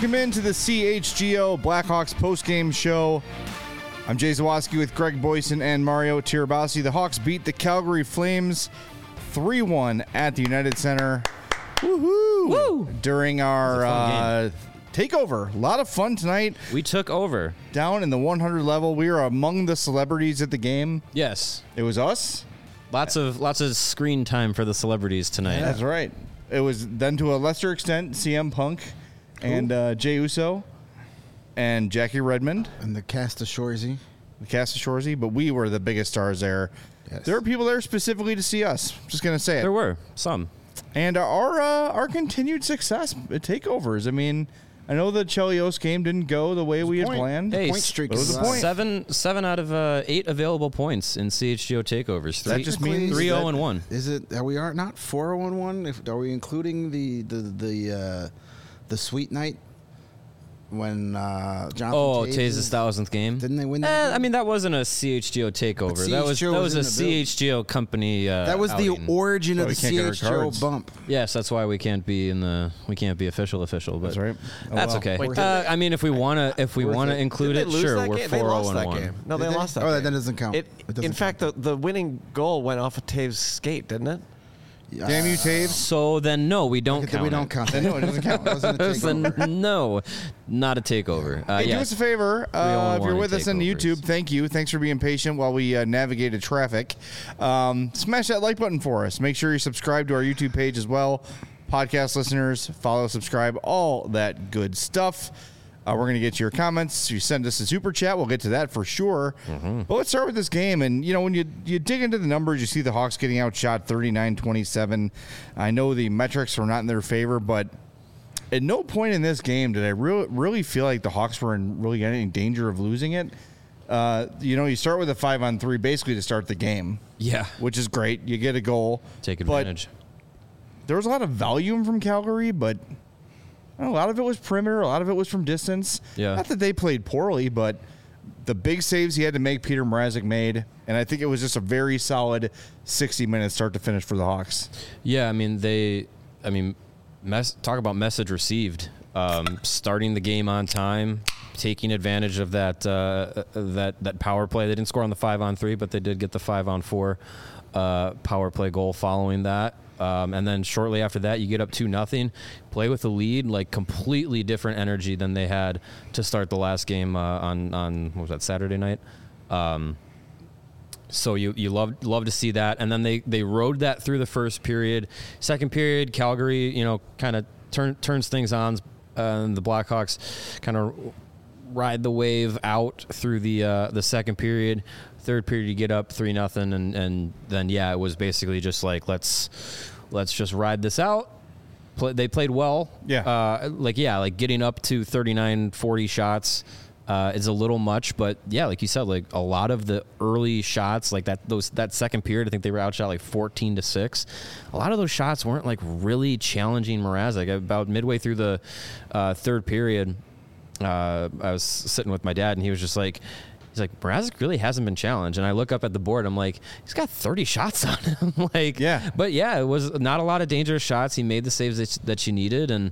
Welcome into the CHGO Blackhawks postgame show. I'm Jay Zawaski with Greg Boyson and Mario Tirabassi. The Hawks beat the Calgary Flames 3-1 at the United Center. Woohoo! Woo! During our takeover. A lot of fun tonight. We took over. Down in the 100 level. We were among the celebrities at the game. Yes. It was us. Lots of screen time for the celebrities tonight. That's right. It was then to a lesser extent CM Punk and Jey Uso and Jackie Redmond. And the cast of Shorzy. But we were the biggest stars there. Yes. There were people there specifically to see us. Just going to say it. There were some. And our continued success at takeovers. I mean, I know the Chelios game didn't go the way we had planned. Hey, point streak was is the point. Seven out of 8 available points in CHGO takeovers. That just means 3-0-1. Is it? Are we not 4-0-1? Are we including the sweet night when Jonathan? Oh, Taze's 1,000th game. Didn't they win that? I mean, that wasn't a CHGO takeover. But That was CHGO a was in the CHGO company. that was the outing. origin of we the can't get our CHGO cards. bump. Yes, that's why we can't be official. But That's right. Oh, that's well. okay. Wait, I mean, if we wanna include it, sure. We're 4-0-1. No, they lost that Oh, game. that doesn't count. It, It doesn't in fact, the winning goal went off of Taves' skate, didn't it? Damn you, Taves. So then, no, we don't count. We it. don't count that. No, it doesn't count. It wasn't a Then takeover. no, not a takeover. Hey, do yes. us a favor. 3-0-1 If you're with us on takeovers. YouTube, thank you. Thanks for being patient while we navigated traffic. Smash that like button for us. Make sure you subscribe to our YouTube page as well. Podcast listeners, follow, subscribe, all that good stuff. We're going to get to your comments. You send us a super chat. We'll get to that for sure. But let's start with this game. And, you know, when you dig into the numbers, you see the Hawks getting outshot 39-27. I know the metrics were not in their favor, but at no point in this game did I really feel like the Hawks were in really any danger of losing it. You know, you start with a 5-on-3 basically to start the game. Yeah. Which is great. You get a goal. Take But advantage. there was a lot of volume from Calgary, but a lot of it was perimeter. A lot of it was from distance. Yeah. Not that they played poorly, but the big saves he had to make, Peter Mrazek made. And I think it was just a very solid 60 minutes start to finish for the Hawks. Yeah, I mean, talk about message received. Starting the game on time, taking advantage of that power play. They didn't score on the 5-on-3, but they did get the 5-on-4 power play goal following that. And then shortly after that, you get up 2-0, play with the lead, like completely different energy than they had to start the last game on what was that, Saturday night? So you love to see that. And then they rode that through the first period. Second period, Calgary, you know, kind of turns things on. And the Blackhawks kind of ride the wave out through the second period. Third period, you get up 3-0, and then it was basically just like let's just ride this out. They played well. Yeah. Like getting up to 39-40 shots is a little much, but yeah, like you said, like a lot of the early shots, like that second period, I think they were outshot like 14-6. A lot of those shots weren't like really challenging Mrazek. About midway through the third period, I was sitting with my dad, and he was just like, he's like, Mrazek really hasn't been challenged. And I look up at the board. I'm like, he's got 30 shots on him. Yeah. But yeah, it was not a lot of dangerous shots. He made the saves that you needed. And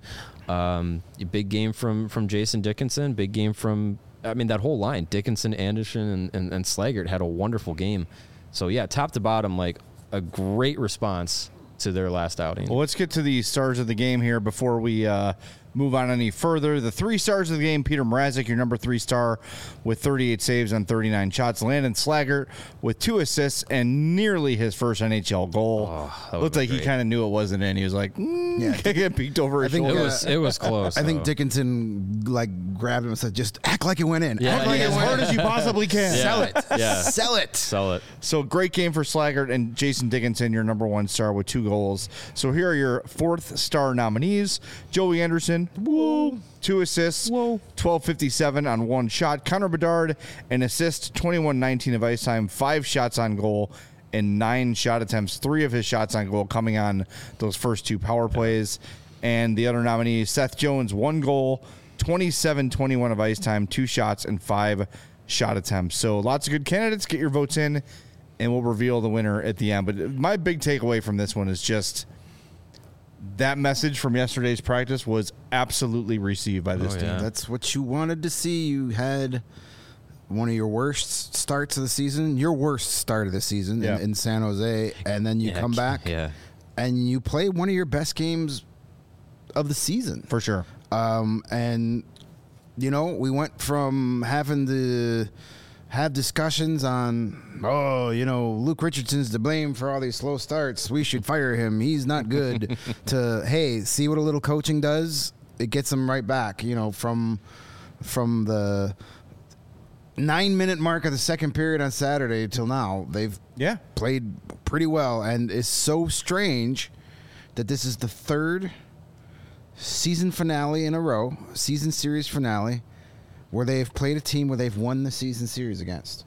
a big game from Jason Dickinson. Big game from, I mean, that whole line. Dickinson, Anderson, and Slaggert had a wonderful game. So yeah, top to bottom, like a great response to their last outing. Well, let's get to the stars of the game here before we move on any further. The 3 stars of the game: Peter Mrazek, your number 3 star, with 38 saves on 39 shots. Landon Slaggert with 2 assists and nearly his first NHL goal. Looked like he kind of knew it wasn't in. He was like, get peeked over his shoulder. it was close. I think though. Dickinson grabbed him and said, "Just act like it went in. Yeah, act like as it went hard in. as you possibly can. Yeah. Sell it. Yeah. Sell it." Sell it. So great game for Slaggert and Jason Dickinson, your number 1 star with 2 goals. So here are your 4th star nominees: Joey Anderson, 2 assists, 12:57 on 1 shot. Connor Bedard, an assist, 21:19 of ice time, 5 shots on goal, and 9 shot attempts. 3 of his shots on goal coming on those first 2 power plays. And the other nominee, Seth Jones, 1 goal, 27:21 of ice time, 2 shots, and 5 shot attempts. So lots of good candidates. Get your votes in, and we'll reveal the winner at the end. But my big takeaway from this one is just that message from yesterday's practice was absolutely received by this Oh, team. yeah. That's what you wanted to see. You had one of your worst starts of the season, your worst start of the season Yeah. in San Jose, and then you come back and you play one of your best games of the season. For sure. And, we went from having to have discussions on, Luke Richardson's to blame for all these slow starts. We should fire him. He's not good. To, hey, see what a little coaching does? It gets him right back, from the 9-minute mark of the second period on Saturday till now. They've played pretty well. And it's so strange that this is the third season finale in a row, season series finale, where they've played a team where they've won the season series against.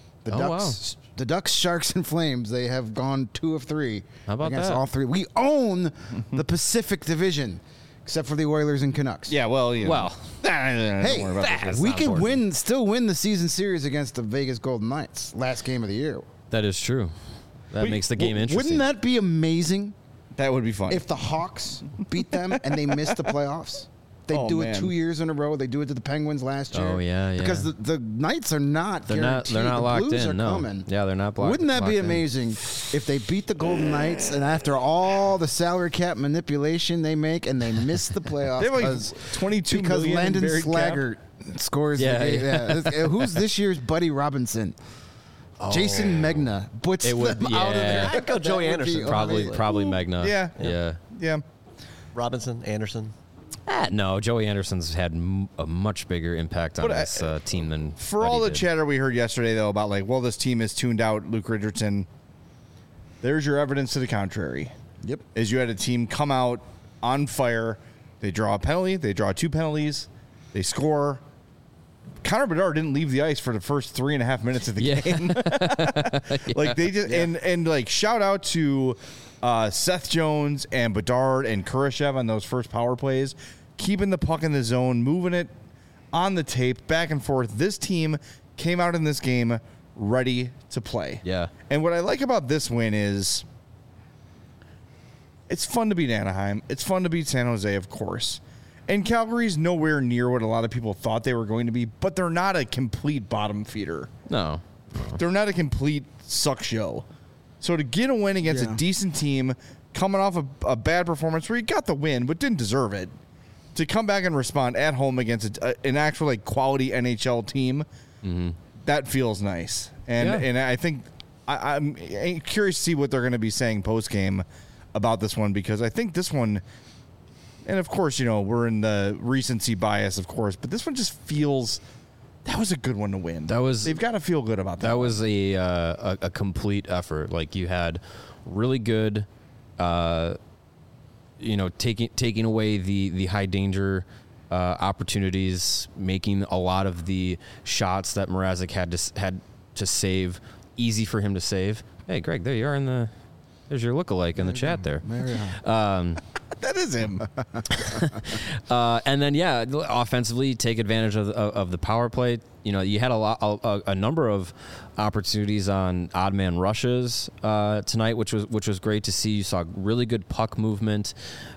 The Ducks, Sharks, and Flames, they have gone 2 of 3 How about against that? all 3. We own the Pacific Division, except for the Oilers and Canucks. Yeah, well, Hey, we could still win the season series against the Vegas Golden Knights, last game of the year. That is true. That makes the game interesting. Wouldn't that be amazing That would be fun. if the Hawks beat them and they missed the playoffs? They do it 2 years in a row. They do it to the Penguins last year. Oh, yeah. Because the Knights are not guaranteed. They're not the locked Blues in. are No. coming. Yeah, they're not blocked. Wouldn't that be locked in. amazing if they beat the Golden Knights and after all the salary cap manipulation they make and they miss the playoffs They have like because 22 because million in Landon buried cap. Slaggert scores. Yeah, Who's this year's Buddy Robinson? Jason Megna puts It would- them out of yeah. there. I'd go Joey That would be Anderson. amazing. Probably Megna. Yeah. Robinson, Anderson. No, Joey Anderson's had a much bigger impact on But this team than For Buddy all the did. chatter we heard yesterday, though, about this team has tuned out Luke Richardson, there's your evidence to the contrary. Yep. Is you had a team come out on fire. They draw a penalty. They draw 2 penalties. They score. Connor Bedard didn't leave the ice for the first 3.5 minutes of the game. Like they just and like shout out to Seth Jones and Bedard and Kurashev on those first power plays, keeping the puck in the zone, moving it on the tape back and forth. This team came out in this game ready to play. Yeah. And what I like about this win is it's fun to beat Anaheim. It's fun to beat San Jose, of course. And Calgary's nowhere near what a lot of people thought they were going to be, but they're not a complete bottom feeder. No. They're not a complete suck show. So to get a win against a decent team, coming off a bad performance where you got the win but didn't deserve it, to come back and respond at home against an actual quality NHL team, that feels nice. And I think I'm curious to see what they're going to be saying post game about this one, because I think this one. And, of course, we're in the recency bias, of course, but this one just feels that was a good one to win. They've got to feel good about that. That was a complete effort. Like, you had really good, taking away the high danger opportunities, making a lot of the shots that Mrazek had to save easy for him to save. Hey, Greg, there you are there's your lookalike in the chat there. That is him. And then, offensively, take advantage of the power play. You had a number of opportunities on odd man rushes tonight, which was great to see. You saw really good puck movement.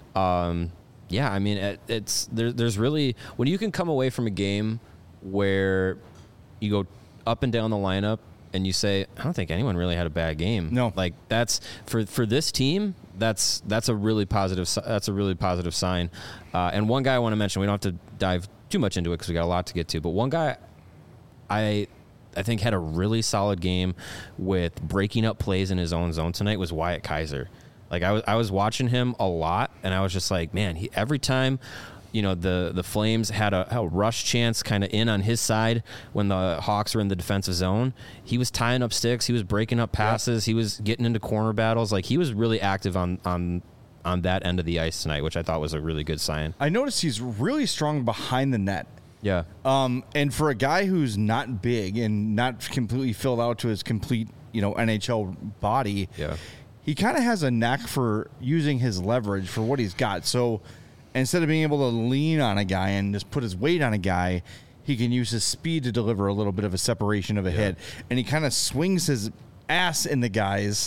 There's really, when you can come away from a game where you go up and down the lineup and you say, I don't think anyone really had a bad game. No, like that's for this team. That's a really positive. That's a really positive sign. And one guy I want to mention. We don't have to dive too much into it because we got a lot to get to. But one guy, I think had a really solid game with breaking up plays in his own zone tonight was Wyatt Kaiser. Like I was watching him a lot, and I was just like, man, every time. The Flames had a rush chance kind of in on his side when the Hawks were in the defensive zone. He was tying up sticks. He was breaking up passes. He was getting into corner battles. Like, he was really active on that end of the ice tonight, which I thought was a really good sign. I noticed he's really strong behind the net. Yeah. And for a guy who's not big and not completely filled out to his complete, NHL body, he kind of has a knack for using his leverage for what he's got. So instead of being able to lean on a guy and just put his weight on a guy, he can use his speed to deliver a little bit of a separation of a hit. And he kind of swings his ass in the guys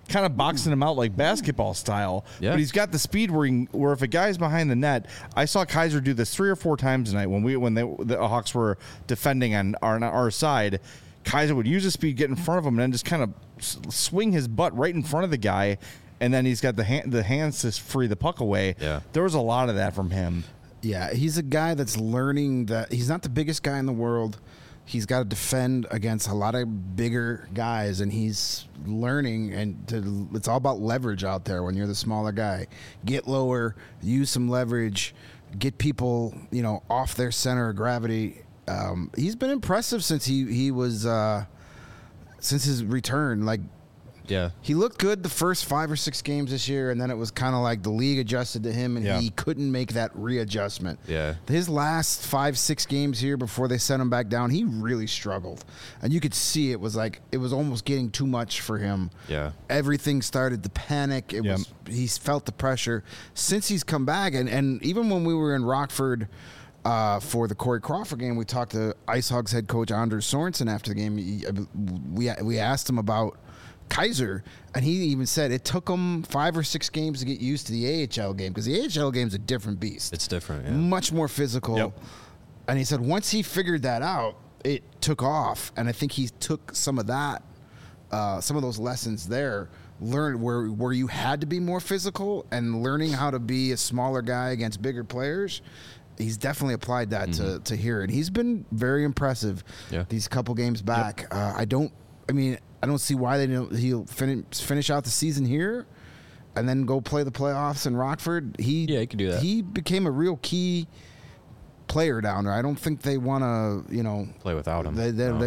kind of boxing him out like basketball style. Yeah. But he's got the speed where if a guy's behind the net, I saw Kaiser do this 3 or 4 times tonight when the Hawks were defending on our side. Kaiser would use his speed, get in front of him, and then just kind of swing his butt right in front of the guy, and then he's got the hands to free the puck away. Yeah. There was a lot of that from him. Yeah, he's a guy that's learning that he's not the biggest guy in the world. He's got to defend against a lot of bigger guys, and he's learning. And it's all about leverage out there when you're the smaller guy. Get lower, use some leverage, get people off their center of gravity. He's been impressive since he was since his return. Like, Yeah. he looked good the first 5 or 6 games this year, and then it was kind of like the league adjusted to him, and he couldn't make that readjustment. Yeah. His last 5-6 games here before they sent him back down, he really struggled, and you could see it was almost getting too much for him. Yeah. Everything started to panic. He felt the pressure since he's come back, and even when we were in Rockford. For the Corey Crawford game, we talked to Ice Hogs head coach Anders Sorensen after the game. We asked him about Kaiser, and he even said it took him 5 or 6 games to get used to the AHL game, because the AHL game's a different beast. It's different. Yeah. Much more physical. Yep. And he said once he figured that out, it took off. And I think he took some of that, some of those lessons there, learned where you had to be more physical, and learning how to be a smaller guy against bigger players. He's definitely applied that to here, and he's been very impressive. Yeah. These couple games back. I don't see why he'll finish out the season here, and then go play the playoffs in Rockford. He could do that. He became a real key player down there. I don't think they want to Play without him.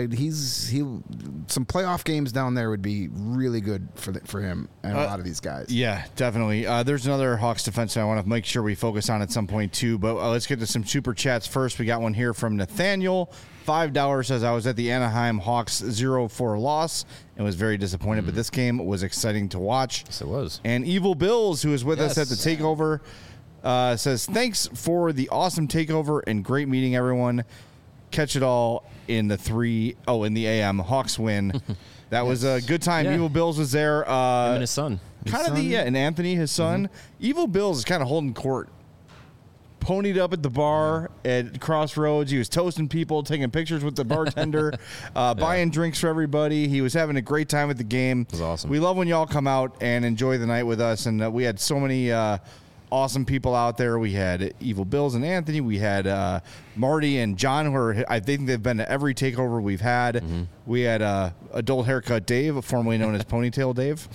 Some playoff games down there would be really good for him and a lot of these guys. Yeah, definitely. There's another Hawks defenseman I want to make sure we focus on at some point too. But let's get to some super chats first. We got one here from Nathaniel. $5 says, I was at the Anaheim Hawks 0-4 loss and was very disappointed, but this game was exciting to watch. Yes, it was. And Evil Bills, who is with us at Yes. the takeover, says, thanks for the awesome takeover and great meeting everyone. Catch it all in the AM. Hawks win. That was a good time. Yeah. Evil Bills was there. Him and his son. Kind of and Anthony, his son. Evil Bills is kind of holding court. Ponied up at the bar at Crossroads. He was toasting people, taking pictures with the bartender, buying drinks for everybody. He was having a great time at the game. It was awesome. We love when y'all come out and enjoy the night with us. And we had so many awesome people out there. We had Evil Bills and Anthony. We had Marty and John, who I think they've been to every takeover we've had. We had Adult Haircut Dave, formerly known as Ponytail Dave.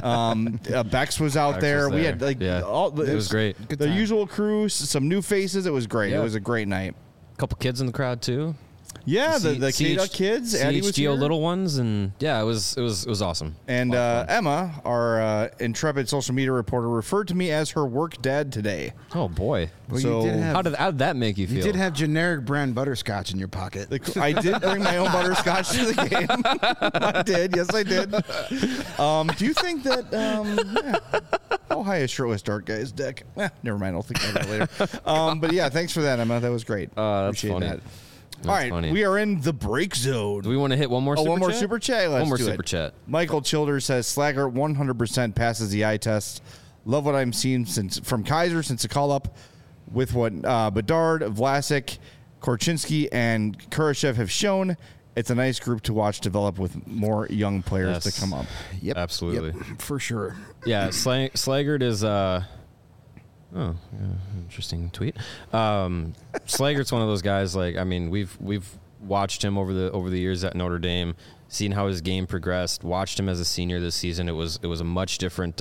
Bex was out there. We had it was great. The usual crew, some new faces. It was great. Yeah. It was a great night. A couple kids in the crowd too. Yeah, the K-Duck kids. Eddie was here. CHGO little ones, and yeah, it was awesome. And Emma, our intrepid social media reporter, referred to me as her work dad today. Oh boy. Well, So- you did have, How did that make you feel? you did have generic brand butterscotch in your pocket. I did bring my own butterscotch to the game. I did. Yes, I did. Do you think that how high is shirtless dark guy's dick? Never mind. I'll think about that later. But yeah, thanks for that, Emma. That was great. That's Appreciate funny. that. That's All right, funny. we are in the break zone. Do we want to hit one more? One more super chat. Let's One more do super it. chat. Michael Childers says Slagger 100% passes the eye test. Love what I'm seeing from Kaiser since the call up with what Bedard, Vlasic, Korchinski, and Kurashev have shown. It's a nice group to watch develop with more young players Yes. to come up. Yep, Absolutely. yep, for sure. Yeah, Slaggert is interesting tweet. Slaggert's one of those guys. Like, I mean, we've watched him over the years at Notre Dame, seen how his game progressed. Watched him as a senior this season. It was a much different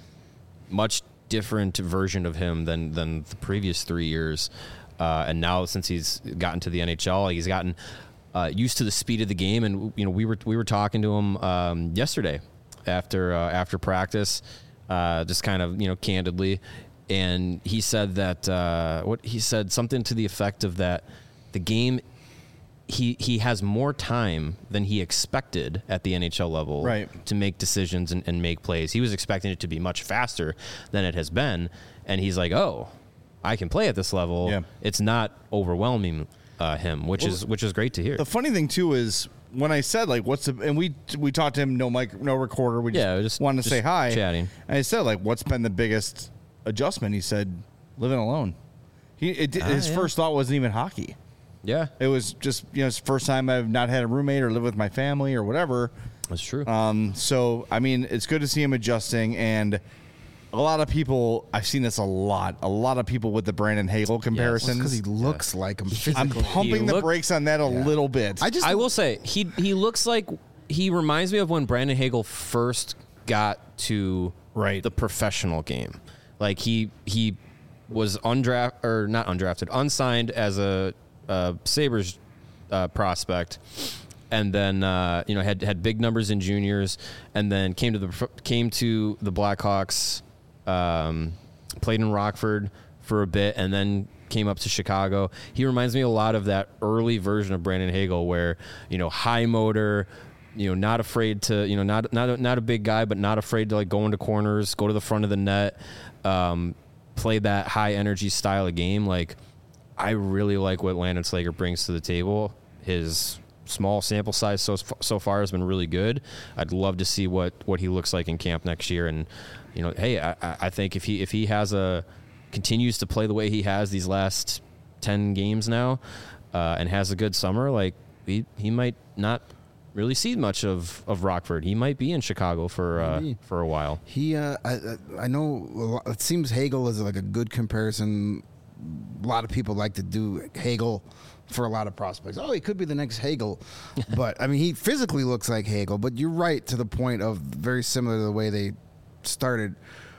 version of him than the previous 3 years. And now since he's gotten to the NHL, he's gotten used to the speed of the game. And we were talking to him yesterday after practice, just kind of candidly. And he said that he said something to the effect of that the game he has more time than he expected at the NHL level to make decisions and make plays. He was expecting it to be much faster than it has been, and he's like, "Oh, I can play at this level. Yeah. It's not overwhelming him, which is great to hear." The funny thing too is when I said like, what's the, and we talked to him, no mic, no recorder. We just wanted to say hi. Chatting. And I said like, what's been the biggest adjustment? He said, living alone. His first thought wasn't even hockey. Yeah. It was just, it's the first time I've not had a roommate or lived with my family or whatever. That's true. So, I mean, it's good to see him adjusting. And a lot of people, I've seen this a lot of people with the Brandon Hagel comparison. Because he looks like him physically. I'm pumping the brakes on that a little bit. I will say, he looks like, he reminds me of when Brandon Hagel first got to the professional game. Like, he was not undrafted, unsigned as a Sabres prospect. And then had big numbers in juniors, and then came to the Blackhawks, played in Rockford for a bit, and then came up to Chicago. He reminds me a lot of that early version of Brandon Hagel, where high motor, not afraid to not a big guy, but not afraid to like go into corners, go to the front of the net, play that high energy style of game. Like, I really like what Landon Slager brings to the table. His small sample size so far has been really good. I'd love to see what he looks like in camp next year. And hey, I think if he continues to play the way he has these last 10 games now, and has a good summer, like he might not really see much of Rockford. He might be in Chicago for a while. I know it seems Hagel is like a good comparison. A lot of people like to do Hagel for a lot of prospects. Oh, he could be the next Hagel. But, I mean, he physically looks like Hagel. But you're right to the point of very similar to the way they started.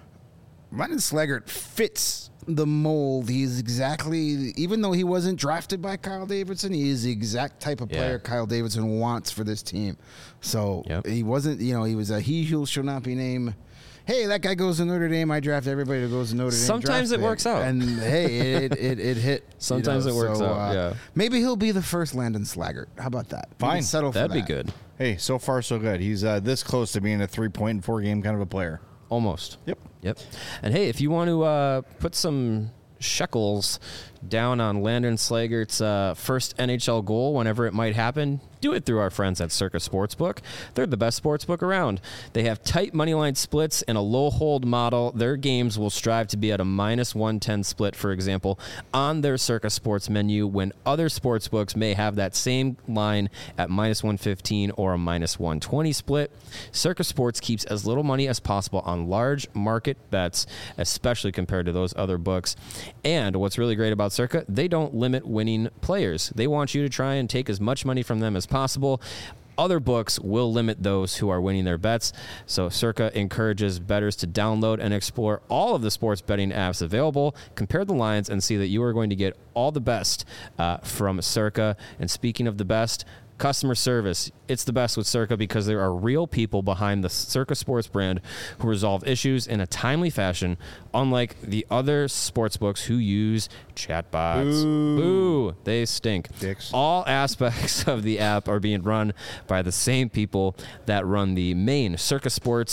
Landon Slaggert fits the mold. He's exactly, even though he wasn't drafted by Kyle Davidson, he is the exact type of player Kyle Davidson wants for this team. So he wasn't, he was a he who shall not be named. Hey, that guy goes to Notre Dame. I draft everybody who goes to Notre Dame. Sometimes it works out. And, hey, it hit. Sometimes it works out, yeah. Maybe he'll be the first Landon Slaggert. How about that? Fine. Settle for That'd that. be good. Hey, so far so good. He's this close to being a 3-point and 4-game kind of a player. Almost. Yep. And hey, if you want to put some shekels down on Landon Slagert's first NHL goal whenever it might happen, do it through our friends at Circa Sportsbook. They're the best sportsbook around. They have tight moneyline splits and a low hold model. Their games will strive to be at a -110 split, for example, on their Circa Sports menu, when other sportsbooks may have that same line at -115 or a -120 split. Circa Sports keeps as little money as possible on large market bets, especially compared to those other books. And what's really great about Circa, they don't limit winning players. They want you to try and take as much money from them as possible. Other books will limit those who are winning their bets. So Circa encourages bettors to download and explore all of the sports betting apps available, compare the lines, and see that you are going to get all the best from Circa. And speaking of the best, customer service. It's the best with Circa because there are real people behind the Circa Sports brand who resolve issues in a timely fashion, unlike the other sports books who use chatbots. Boo. They stink. Dicks. All aspects of the app are being run by the same people that run the main Circa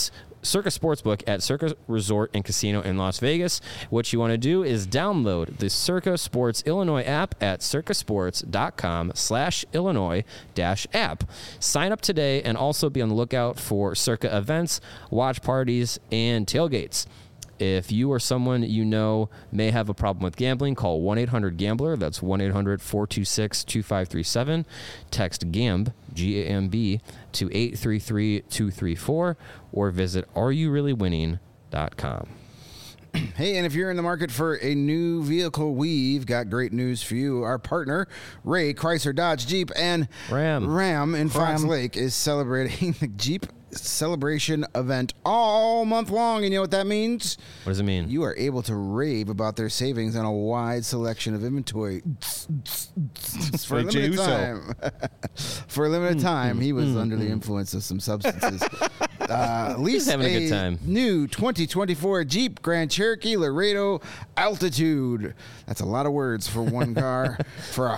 Sportsbook at Circa Resort and Casino in Las Vegas. What you want to do is download the Circa Sports Illinois app at circasports.com/Illinois-app. Sign up today and also be on the lookout for Circa events, watch parties, and tailgates. If you or someone you know may have a problem with gambling, call 1-800-GAMBLER. That's 1-800-426-2537. Text GAMB, G-A-M-B, to 833-234, or visit areyourreallywinning.com. Hey, and if you're in the market for a new vehicle, we've got great news for you. Our partner, Ray Chrysler Dodge Jeep and Ram in Fox Lake, is celebrating the Jeep celebration event all month long. And you know what that means? What does it mean? You are able to rave about their savings on a wide selection of inventory for a limited time. For a limited time, he was under the influence of some substances. Lease having a good time. New 2024 Jeep Grand Cherokee Laredo Altitude. That's a lot of words for one car. For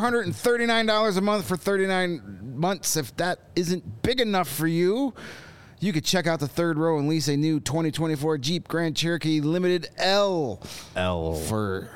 $439 a month for 39 months. If that isn't big enough for you, you could check out the third row and lease a new 2024 Jeep Grand Cherokee Limited L for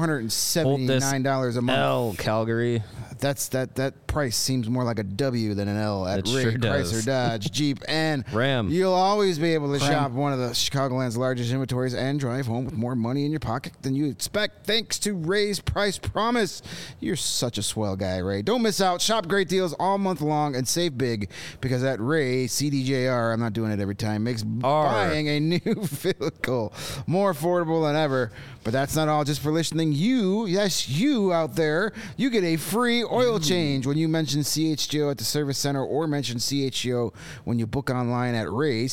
$479 a month. L, Calgary. That price seems more like a W than an L at It Ray sure does. Chrysler Dodge Jeep and Ram. You'll always be able to shop one of the Chicagoland's largest inventories and drive home with more money in your pocket than you expect thanks to Ray's Price Promise. You're such a swell guy, Ray. Don't miss out. Shop great deals all month long and save big because at Ray CDJR, I'm not doing it every time, makes buying a new vehicle more affordable than ever. But that's not all. Just for listening, you out there, you get a free oil change when you mention CHGO at the service center or mention CHGO when you book online at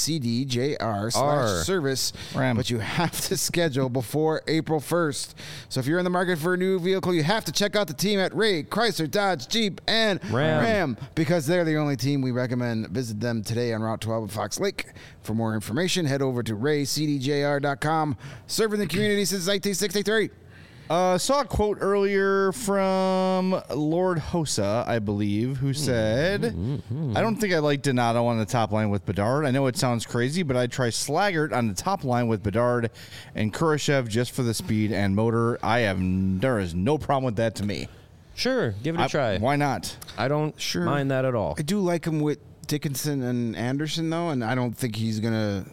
RayCDJR/service. But you have to schedule before April 1st. So if you're in the market for a new vehicle, you have to check out the team at Ray, Chrysler, Dodge, Jeep, and Ram because they're the only team we recommend. Visit them today on Route 12 at Fox Lake. For more information, head over to RayCDJR.com. Serving the community since 1963. Saw a quote earlier from Lord Hossa, I believe, who said, I don't think I like Donato on the top line with Bedard. I know it sounds crazy, but I'd try Slaggert on the top line with Bedard and Kurashev just for the speed and motor. There is no problem with that to me. Sure, give it a try. Why not? I don't mind that at all. I do like him with Dickinson and Anderson, though, and I don't think he's going to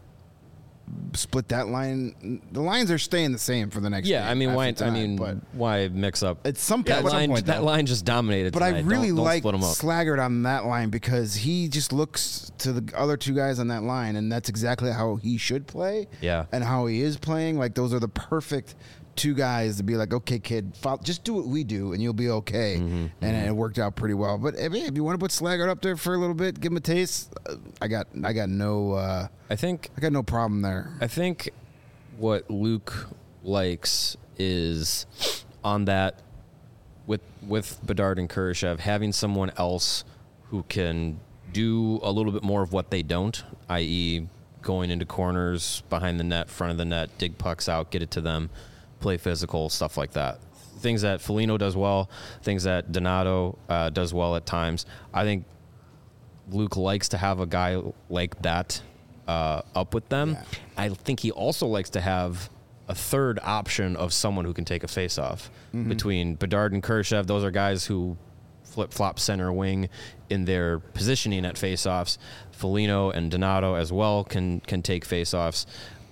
split that line. The lines are staying the same for the next game. I mean, why mix up? At some point, that line just dominated. But tonight. I really don't like split 'em up. Slaggert on that line because he just looks to the other two guys on that line, and that's exactly how he should play. Yeah, and how he is playing. Like those are the perfect two guys to be like, okay, kid, just do what we do, and you'll be okay. And it worked out pretty well. But if you want to put Slaggert up there for a little bit, give him a taste. I got no problem there. I think what Luke likes is on that with Bedard and Kurashev, having someone else who can do a little bit more of what they don't, i.e. going into corners, behind the net, front of the net, dig pucks out, get it to them, play physical, stuff like that. Things that Foligno does well, things that Donato does well at times. I think Luke likes to have a guy like that up with them. Yeah. I think he also likes to have a third option of someone who can take a face-off. Between Bedard and Kurashev, those are guys who flip-flop center wing in their positioning at face-offs. Foligno and Donato as well can take face-offs.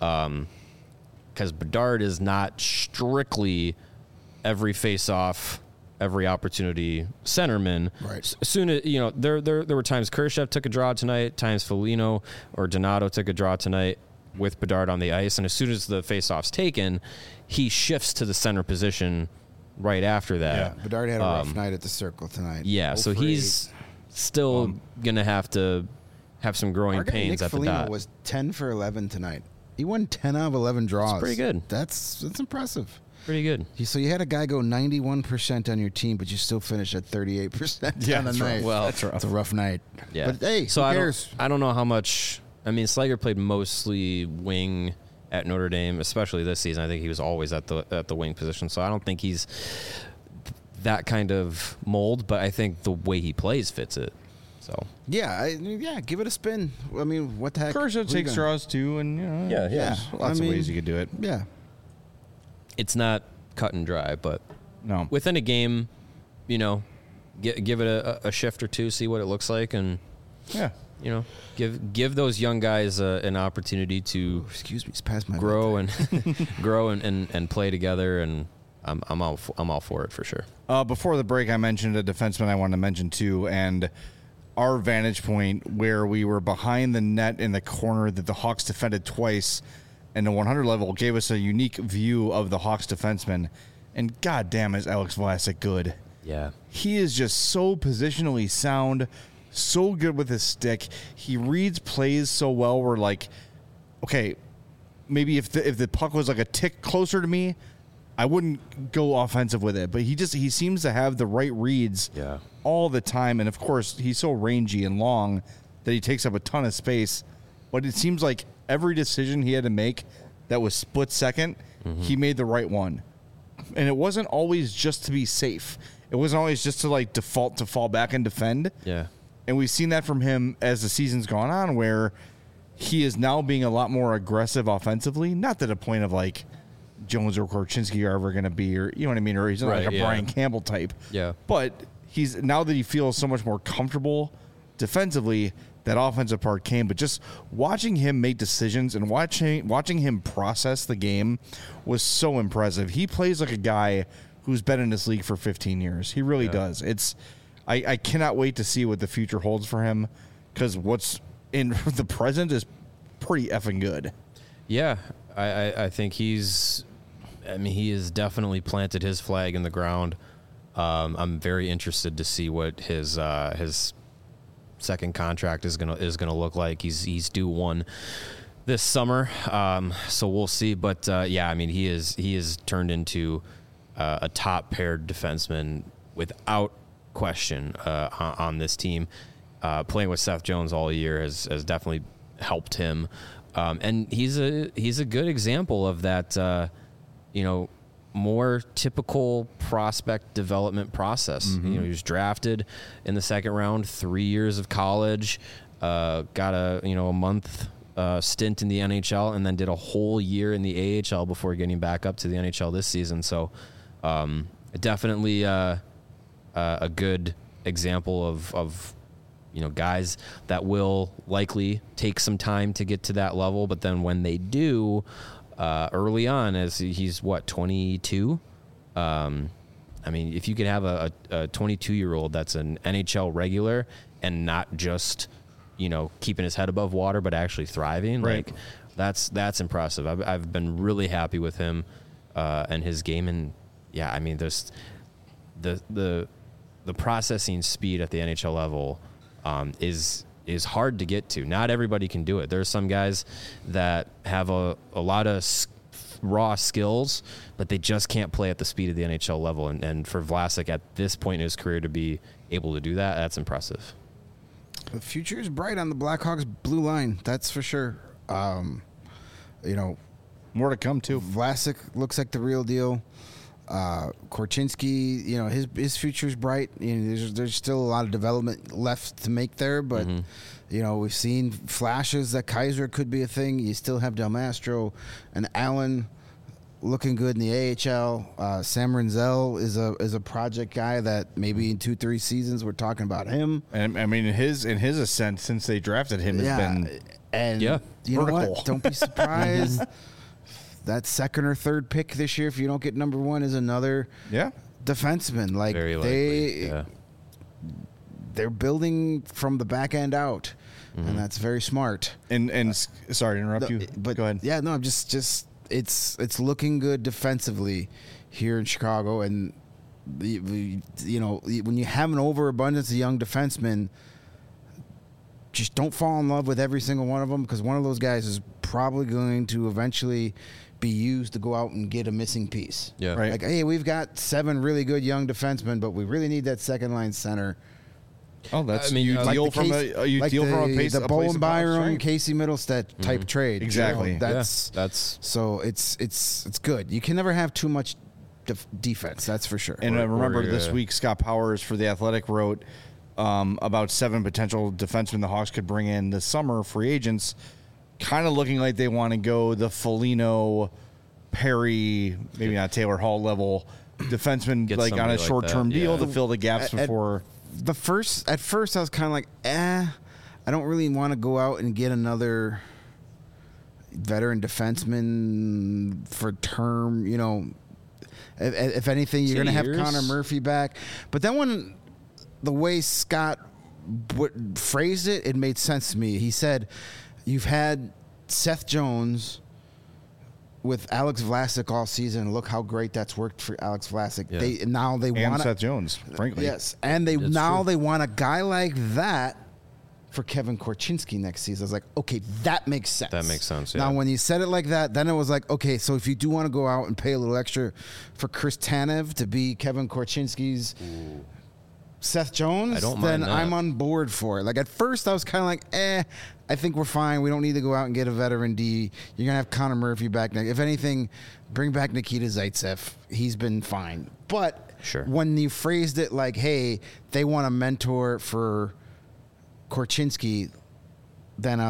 Because Bedard is not strictly every face-off, every opportunity centerman. Right. As soon as there were times Kurashev took a draw tonight, times Foligno or Donato took a draw tonight with Bedard on the ice, and as soon as the face-off's taken, he shifts to the center position right after that. Yeah, Bedard had a rough night at the Circle tonight. Yeah, so he's still gonna have to have some growing pains Nick at Foligno the dot. Was 10 for 11 tonight. He won 10 out of 11 draws. That's pretty good. That's impressive. Pretty good. So you had a guy go 91% on your team, but you still finished at 38% on the night. Well, that's rough. It's a rough night. Yeah. But hey, so who cares? I don't know how much. I mean, Slager played mostly wing at Notre Dame, especially this season. I think he was always at the wing position. So I don't think he's that kind of mold, but I think the way he plays fits it. So yeah, give it a spin. I mean, what the heck? Kurashev takes draws too, and there's lots of ways you could do it. Yeah, it's not cut and dry, but no, within a game, give it a shift or two, see what it looks like, and give those young guys an opportunity to grow and grow and play together, and I'm all for it for sure. Before the break, I mentioned a defenseman I wanted to mention too, and our vantage point where we were behind the net in the corner that the Hawks defended twice and the 100 level gave us a unique view of the Hawks defenseman. And goddamn, is Alex Vlasic good. Yeah. He is just so positionally sound, so good with his stick. He reads plays so well. We're like, okay, maybe if the puck was like a tick closer to me, I wouldn't go offensive with it, but he seems to have the right reads all the time. And of course, he's so rangy and long that he takes up a ton of space. But it seems like every decision he had to make that was split second, he made the right one. And it wasn't always just to be safe. It wasn't always just to like default to fall back and defend. Yeah. And we've seen that from him as the season's gone on, where he is now being a lot more aggressive offensively. Not to the point of like Jones or Korchinski are ever going to be, or you know what I mean, or he's not Right, like a yeah. Brian Campbell type. Yeah. But he's now that he feels so much more comfortable defensively, that offensive part came. But just watching him make decisions and watching him process the game was so impressive. He plays like a guy who's been in this league for 15 years. He really does. I cannot wait to see what the future holds for him, because what's in the present is pretty effing good. Yeah, I think he has definitely planted his flag in the ground. I'm very interested to see what his second contract is gonna look like. He's due one this summer, so we'll see. But yeah, I mean, he is turned into a top paired defenseman without question on this team. Playing with Seth Jones all year has definitely helped him, and he's a good example of that. More typical prospect development process. Mm-hmm. He was drafted in the second round, 3 years of college, got a month stint in the NHL, and then did a whole year in the AHL before getting back up to the NHL this season. So definitely a good example of guys that will likely take some time to get to that level, but then when they do, early on, as he's 22. I mean, if you could have a 22-year-old that's an NHL regular and not just keeping his head above water, but actually thriving, Right. like that's impressive. I've been really happy with him and his game, and yeah, I mean, there's the processing speed at the NHL level is hard to get to. Not everybody can do it. There are some guys that have a lot of raw skills, but they just can't play at the speed of the NHL level. And for Vlasic at this point in his career to be able to do that, that's impressive. The future is bright on the Blackhawks blue line. That's for sure. More to come too. Vlasic looks like the real deal. Korchinski, his future's bright. There's still a lot of development left to make there, but we've seen flashes that Kaiser could be a thing. You still have Del Mastro and Allen looking good in the AHL. Sam Renzel is a project guy that maybe in 2-3 seasons we're talking about him. And I mean, his ascent since they drafted him has been you know vertical. what? Don't be surprised. That second or third pick this year, if you don't get number one, is another defenseman. Like Very likely. they're building from the back end out, and that's very smart. And sorry to interrupt you, But go ahead. Yeah, no, I'm just it's looking good defensively here in Chicago, and when you have an overabundance of young defensemen, just don't fall in love with every single one of them, because one of those guys is probably going to eventually be used to go out and get a missing piece. Yeah. Right. Like, hey, we've got 7 really good young defensemen, but we really need that second line center. Oh, that's I mean, you like deal the from case- a you like deal from a the place a place Bowen of Byron, strength. Casey Middlestat type trade. Exactly. That's So it's good. You can never have too much defense. That's for sure. And remember, Or, this week Scott Powers for The Athletic wrote about 7 potential defensemen the Hawks could bring in this summer, free agents, kind of looking like they want to go the Foligno, Perry, maybe not Taylor Hall level defenseman, Get like on somebody a like short-term that, deal yeah. to fill the gaps before. At first I was kind of like, I don't really want to go out and get another veteran defenseman for term. If anything, you're going to have years. Connor Murphy back. But then when the way Scott phrased it, it made sense to me. He said, you've had Seth Jones with Alex Vlasic all season. Look how great that's worked for Alex Vlasic. Yeah. They And want Seth Jones, frankly. Yes, and they want a guy like that for Kevin Korchinski next season. I was like, okay, that makes sense. That makes sense, Now, yeah. when you said it like that, then it was like, okay, so if you do want to go out and pay a little extra for Chris Tanev to be Kevin Korchinski's Seth Jones, I don't then mind that. I'm on board for it. Like at first, I was kind of like, I think we're fine. We don't need to go out and get a veteran D. You're gonna have Connor Murphy back next. If anything, bring back Nikita Zaitsev. He's been fine. But Sure. when you phrased it like, hey, they want a mentor for Korchinski, then I was like,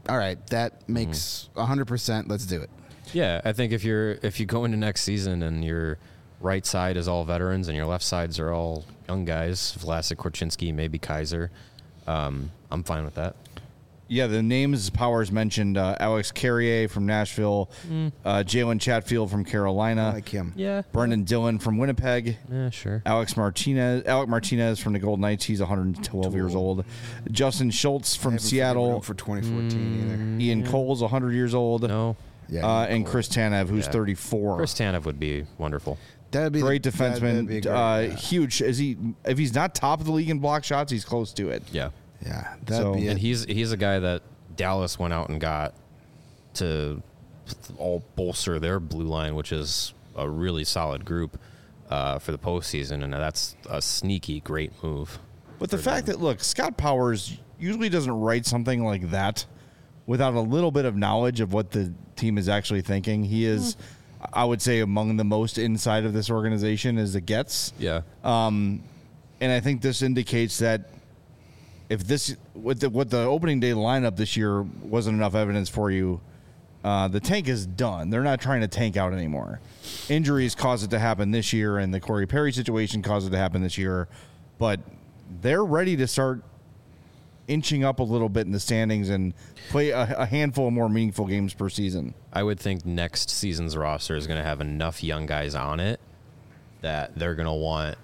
all right, that makes 100%. Let's do it. Yeah, I think if you go into next season and your right side is all veterans and your left sides are all young guys, Vlasic, Korchinski, maybe Kaiser, I'm fine with that. Yeah, the names Powers mentioned: Alex Carrier from Nashville, Jalen Chatfield from Carolina, I like him. Yeah. Brendan Dillon from Winnipeg, Yeah, sure. Alec Martinez from the Golden Knights. He's 112 years old. Justin Schultz from Seattle. For 2014 Ian Cole's 100 years old. No. either. Yeah. And Chris Tanev, who's Yeah. 34. Chris Tanev would be wonderful. That'd be Great that'd defenseman. be great, Huge. If he's not top of the league in block shots, he's close to it. Yeah. yeah, that'd So- be And it. he's a guy that Dallas went out and got to all bolster their blue line, which is a really solid group for the postseason, and that's a sneaky great move. But the fact that, look, Scott Powers usually doesn't write something like that without a little bit of knowledge of what the team is actually thinking. He is, I would say, among the most inside of this organization as it gets. Yeah. And I think this indicates that if this, what the opening day lineup this year wasn't enough evidence for you, the tank is done. They're not trying to tank out anymore. Injuries caused it to happen this year, and the Corey Perry situation caused it to happen this year. But they're ready to start inching up a little bit in the standings and play a handful of more meaningful games per season. I would think next season's roster is going to have enough young guys on it that they're going to want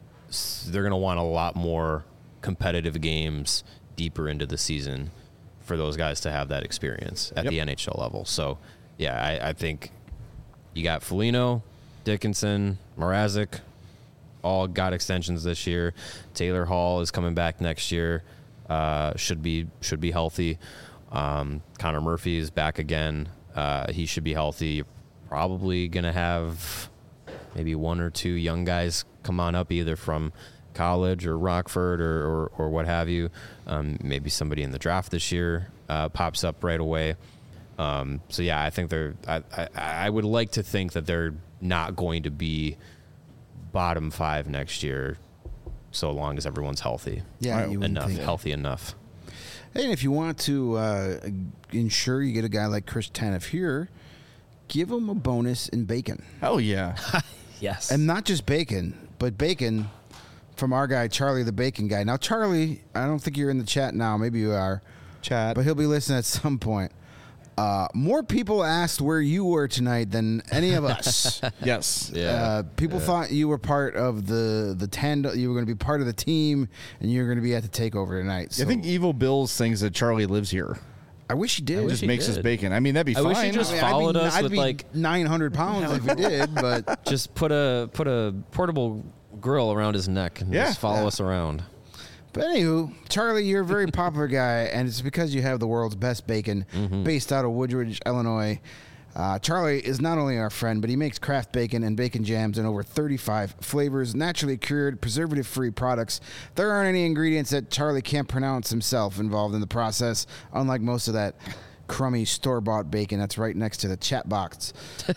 a lot more competitive games deeper into the season for those guys to have that experience at Yep. the NHL level. So, yeah, I think you got Foligno, Dickinson, Mrazek, all got extensions this year. Taylor Hall is coming back next year. Should be healthy. Connor Murphy is back again. He should be healthy. You're probably gonna have maybe one or two young guys come on up either from college or Rockford or what have you. Maybe somebody in the draft this year pops up right away. So yeah, I think I would like to think that they're not going to be bottom 5 next year, so long as everyone's healthy. Yeah, you wouldn't think. Healthy enough. Hey, and if you want to ensure you get a guy like Chris Tanev here, give him a bonus in bacon. Hell yeah. Yes. And not just bacon, but bacon from our guy, Charlie the Bacon Guy. Now, Charlie, I don't think you're in the chat now. Maybe you are. Chat. But he'll be listening at some point. More people asked where you were tonight than any of us. Yes. Yeah. People thought you were part of the tandem. You were going to be part of the team, and you were going to be at the takeover tonight. So I think Evil Bills thinks that Charlie lives here. I wish he did. Just he makes his did. bacon. I mean, that'd be I fine. wish he just I'd followed us I'd with be like 900 pounds if he did, but just put a portable grill around his neck and Yeah. just follow us around. But anywho, Charlie, you're a very popular guy, and it's because you have the world's best bacon based out of Woodridge, Illinois. Charlie is not only our friend, but he makes craft bacon and bacon jams in over 35 flavors, naturally cured, preservative-free products. There aren't any ingredients that Charlie can't pronounce himself involved in the process, unlike most of that crummy store-bought bacon that's right next to the chat box.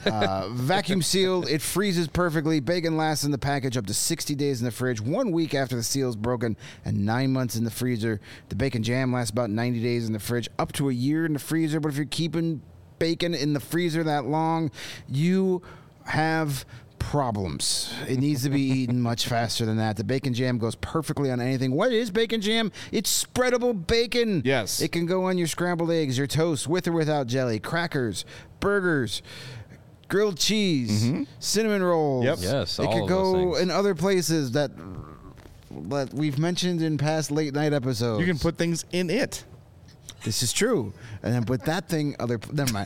Vacuum sealed, it freezes perfectly. Bacon lasts in the package up to 60 days in the fridge, 1 week after the seal is broken, and 9 months in the freezer. The bacon jam lasts about 90 days in the fridge, up to a year in the freezer. But if you're keeping bacon in the freezer that long, you have problems. It needs to be eaten much faster than that. The bacon jam goes perfectly on anything. What is bacon jam? It's spreadable bacon. Yes. It can go on your scrambled eggs, your toast, with or without jelly, crackers, burgers, grilled cheese, cinnamon rolls. Yep. Yes, It all could of those go things. in other places that we've mentioned in past late night episodes. You can put things in it. This is true. And then with that thing, never mind.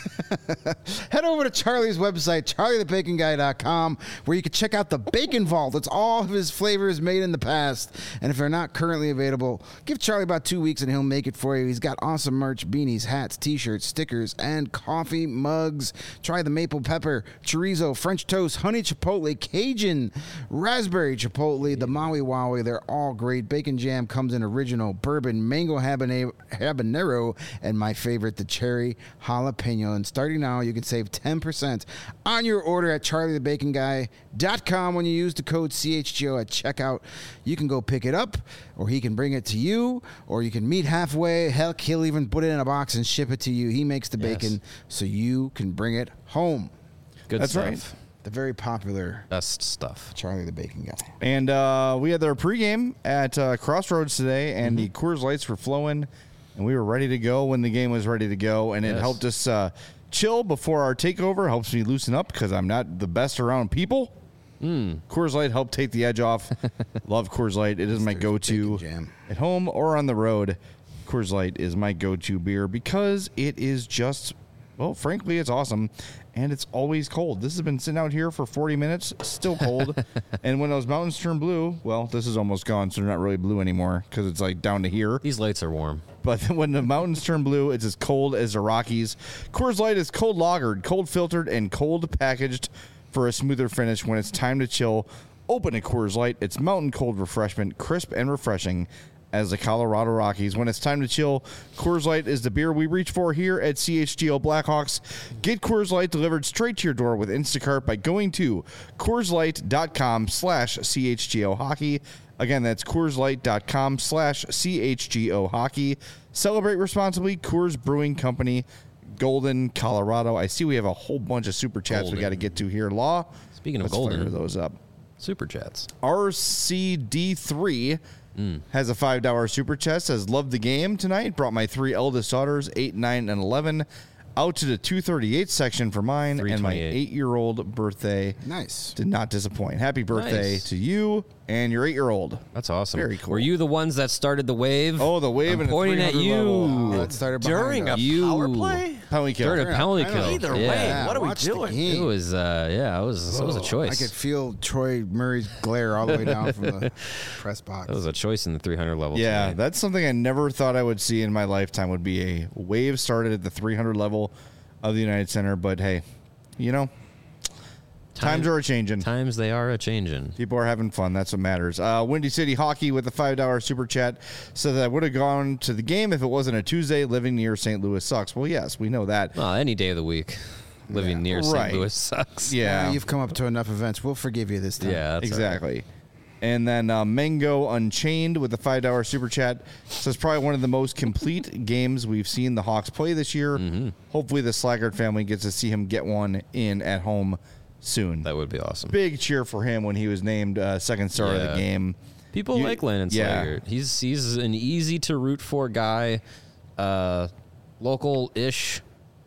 Head over to Charlie's website, charliethebaconguy.com, where you can check out the Bacon Vault. It's all of his flavors made in the past. And if they're not currently available, give Charlie about 2 weeks and he'll make it for you. He's got awesome merch, beanies, hats, t-shirts, stickers, and coffee mugs. Try the maple pepper, chorizo, French toast, honey chipotle, Cajun, raspberry chipotle, the Maui Wowie. They're all great. Bacon jam comes in original, bourbon, mango habanero, habanero, and my favorite, the cherry jalapeno. And starting now, you can save 10% on your order at charliethebaconguy.com when you use the code CHGO at checkout. You can go pick it up, or he can bring it to you, or you can meet halfway. Heck, he'll even put it in a box and ship it to you. He makes the bacon so you can bring it home. Good That's stuff. right. The very popular Best stuff. Charlie the Bacon Guy. And we had our pregame at Crossroads today, and the Coors Lights were flowing, and we were ready to go when the game was ready to go, and it Yes. helped us chill before our takeover. Helps me loosen up because I'm not the best around people. Coors Light helped take the edge off. Love Coors Light. It is my go-to Bacon jam. at home or on the road. Coors Light is my go-to beer because it is just, well, frankly, it's awesome. And it's always cold. This has been sitting out here for 40 minutes, still cold. And when those mountains turn blue, well, this is almost gone, so they're not really blue anymore because it's like down to here. These lights are warm. But when the mountains turn blue, it's as cold as the Rockies. Coors Light is cold lagered, cold filtered, and cold packaged for a smoother finish. When it's time to chill, open a Coors Light. It's mountain cold refreshment, crisp and refreshing as the Colorado Rockies. When it's time to chill, Coors Light is the beer we reach for here at CHGO Blackhawks. Get Coors Light delivered straight to your door with Instacart by going to CoorsLight.com/CHGO Hockey. Again, that's CoorsLight.com/CHGO Hockey. Celebrate responsibly. Coors Brewing Company, Golden, Colorado. I see we have a whole bunch of super chats we Golden. got to get to here. Law. Speaking of Let's fire Golden. those up. Super chats. RCD3 has a $5 super chat. Says, love the game tonight. Brought my 3 eldest daughters, 8, 9, and 11, out to the 238 section for mine, and my 328. 8-year-old birthday Nice. did not disappoint. Happy birthday Nice. to you and your 8-year-old. That's awesome. Very cool. Were you the ones that started the wave? Oh, the wave I'm and the pointing at 300 you. level. That started During behind a us. power play? Penalty kill. During a penalty I know. kill. Either yeah. way, what are we watch the doing? game. It was, it was a I choice. could feel Troy Murray's glare all the way down from the press box. That was a choice in the 300 level. Yeah, tonight. that's something I never thought I would see in my lifetime would be a wave started at the 300 level of the United Center. But hey, you know, times are a-changing. Times they are a changing. People are having fun. That's what matters. Windy City Hockey with a $5 super chat said that I would have gone to the game if it wasn't a Tuesday. Living near St. Louis sucks. Well, yes, we know that. Well, any day of the week, living near Right. St. Louis sucks. Yeah, You've come up to enough events. We'll forgive you this time. Yeah, that's all right. exactly. And then Mango Unchained with the $5 super chat says probably one of the most complete games we've seen the Hawks play this year. Mm-hmm. Hopefully the Slaggard family gets to see him get one in at home soon. That would be awesome. Big cheer for him when he was named second star of the Yeah. game. People You- like Landon yeah. Slaggert. He's an easy to root for guy, local-ish.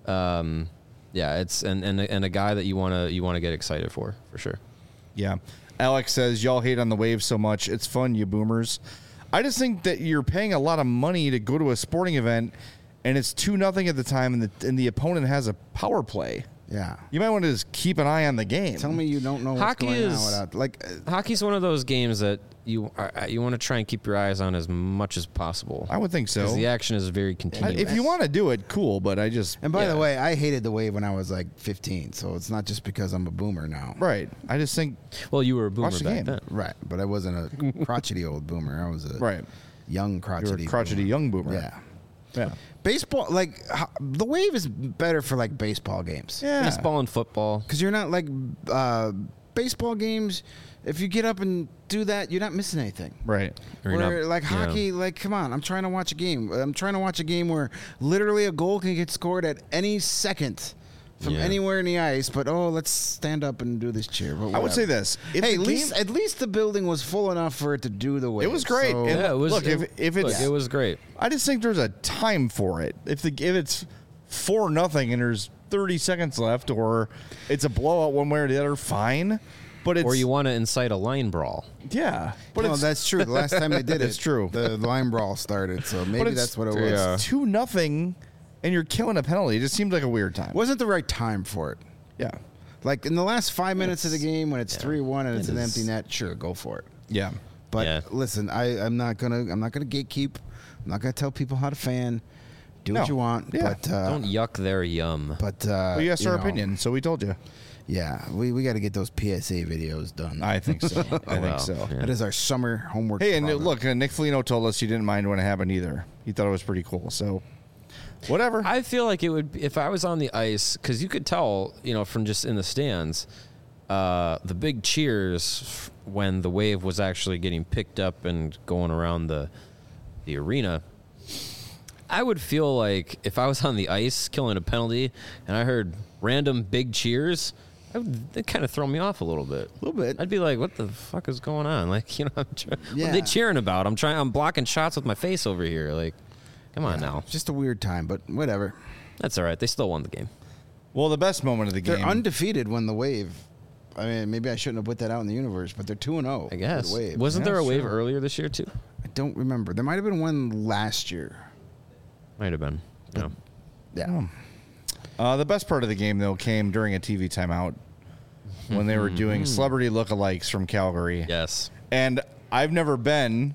It's and a guy that you wanna get excited for sure. Yeah. Alex says, y'all hate on the Wave so much. It's fun, you boomers. I just think that you're paying a lot of money to go to a sporting event, and it's 2-0 at the time, and the opponent has a power play. Yeah. You might want to just keep an eye on the game. Tell me you don't know what's Hockey going on is- without Hockey's one of those games that you want to try and keep your eyes on as much as possible. I would think so. Because the action is very I- continuous. if you want to do it, cool, but I just... And by Yeah. the way, I hated the Wave when I was like 15, so it's not just because I'm a boomer now. Right. I just think... well, you were a boomer Watch the back game. then. Right, but I wasn't a crotchety old boomer. I was a Right. young You're crotchety a crotchety boomer. young boomer. Yeah. Yeah. Baseball, the Wave is better for like baseball games. Yeah. Baseball and football. Because you're not like baseball games. If you get up and do that, you're not missing anything. Right. Or you're Where not- like yeah. hockey, like come on, I'm trying to watch a game. I'm trying to watch a game where literally a goal can get scored at any second from Yeah. anywhere in the ice. But let's stand up and do this cheer. But I would whatever. say this. If Hey, the at least the building was full enough for it to do the Wave. It was great. So- And Yeah, it was. look, if it's... look, it was great. I just think there's a time for it. If it's 4-0 and there's 30 seconds left, or it's a blowout one way or the other, fine. But it's Or you want to incite a line brawl. yeah. But no, it's that's true. The last time they did it, It's true. The line brawl started, so maybe it's- that's what it was. Yeah. 2-0, and you're killing a penalty. It just seemed like a weird time. Wasn't the right time for it. Yeah. Like in the last 5 minutes of the game when it's 3-1 and it's It an is- empty net, sure, go for it. Yeah. But Yeah. listen, I'm not gonna gatekeep. I'm not gonna tell people how to fan. Do No. what you want, Yeah. but Don't yuck their yum. but We asked you our know, opinion, so we told you. Yeah, we got to get those PSA videos done. I think so. I think Well, so. yeah. That is our summer homework. Hey, and problem. look, Nick Foligno told us he didn't mind when it happened either. He thought it was pretty cool. So, whatever. I feel like it would if I was on the ice because you could tell, from just in the stands, the big cheers when the wave was actually getting picked up and going around the arena. I would feel like if I was on the ice killing a penalty and I heard random big cheers, it'd kind of throw me off a little bit. A little bit. I'd be like, "What the fuck is going on?" Like, what are Yeah. they cheering about? I'm blocking shots with my face over here. Like, come on now. Just a weird time, but whatever. That's all right. They still won the game. Well, the best moment of the game. They're undefeated when the Wave. I mean, maybe I shouldn't have put that out in the universe, but they're 2-0. I guess. The Wave. Wasn't there a wave sure. earlier this year too? I don't remember. There might have been one last year. Might have been. No. Yeah. The best part of the game, though, came during a TV timeout when they were doing celebrity lookalikes from Calgary. Yes. And I've never been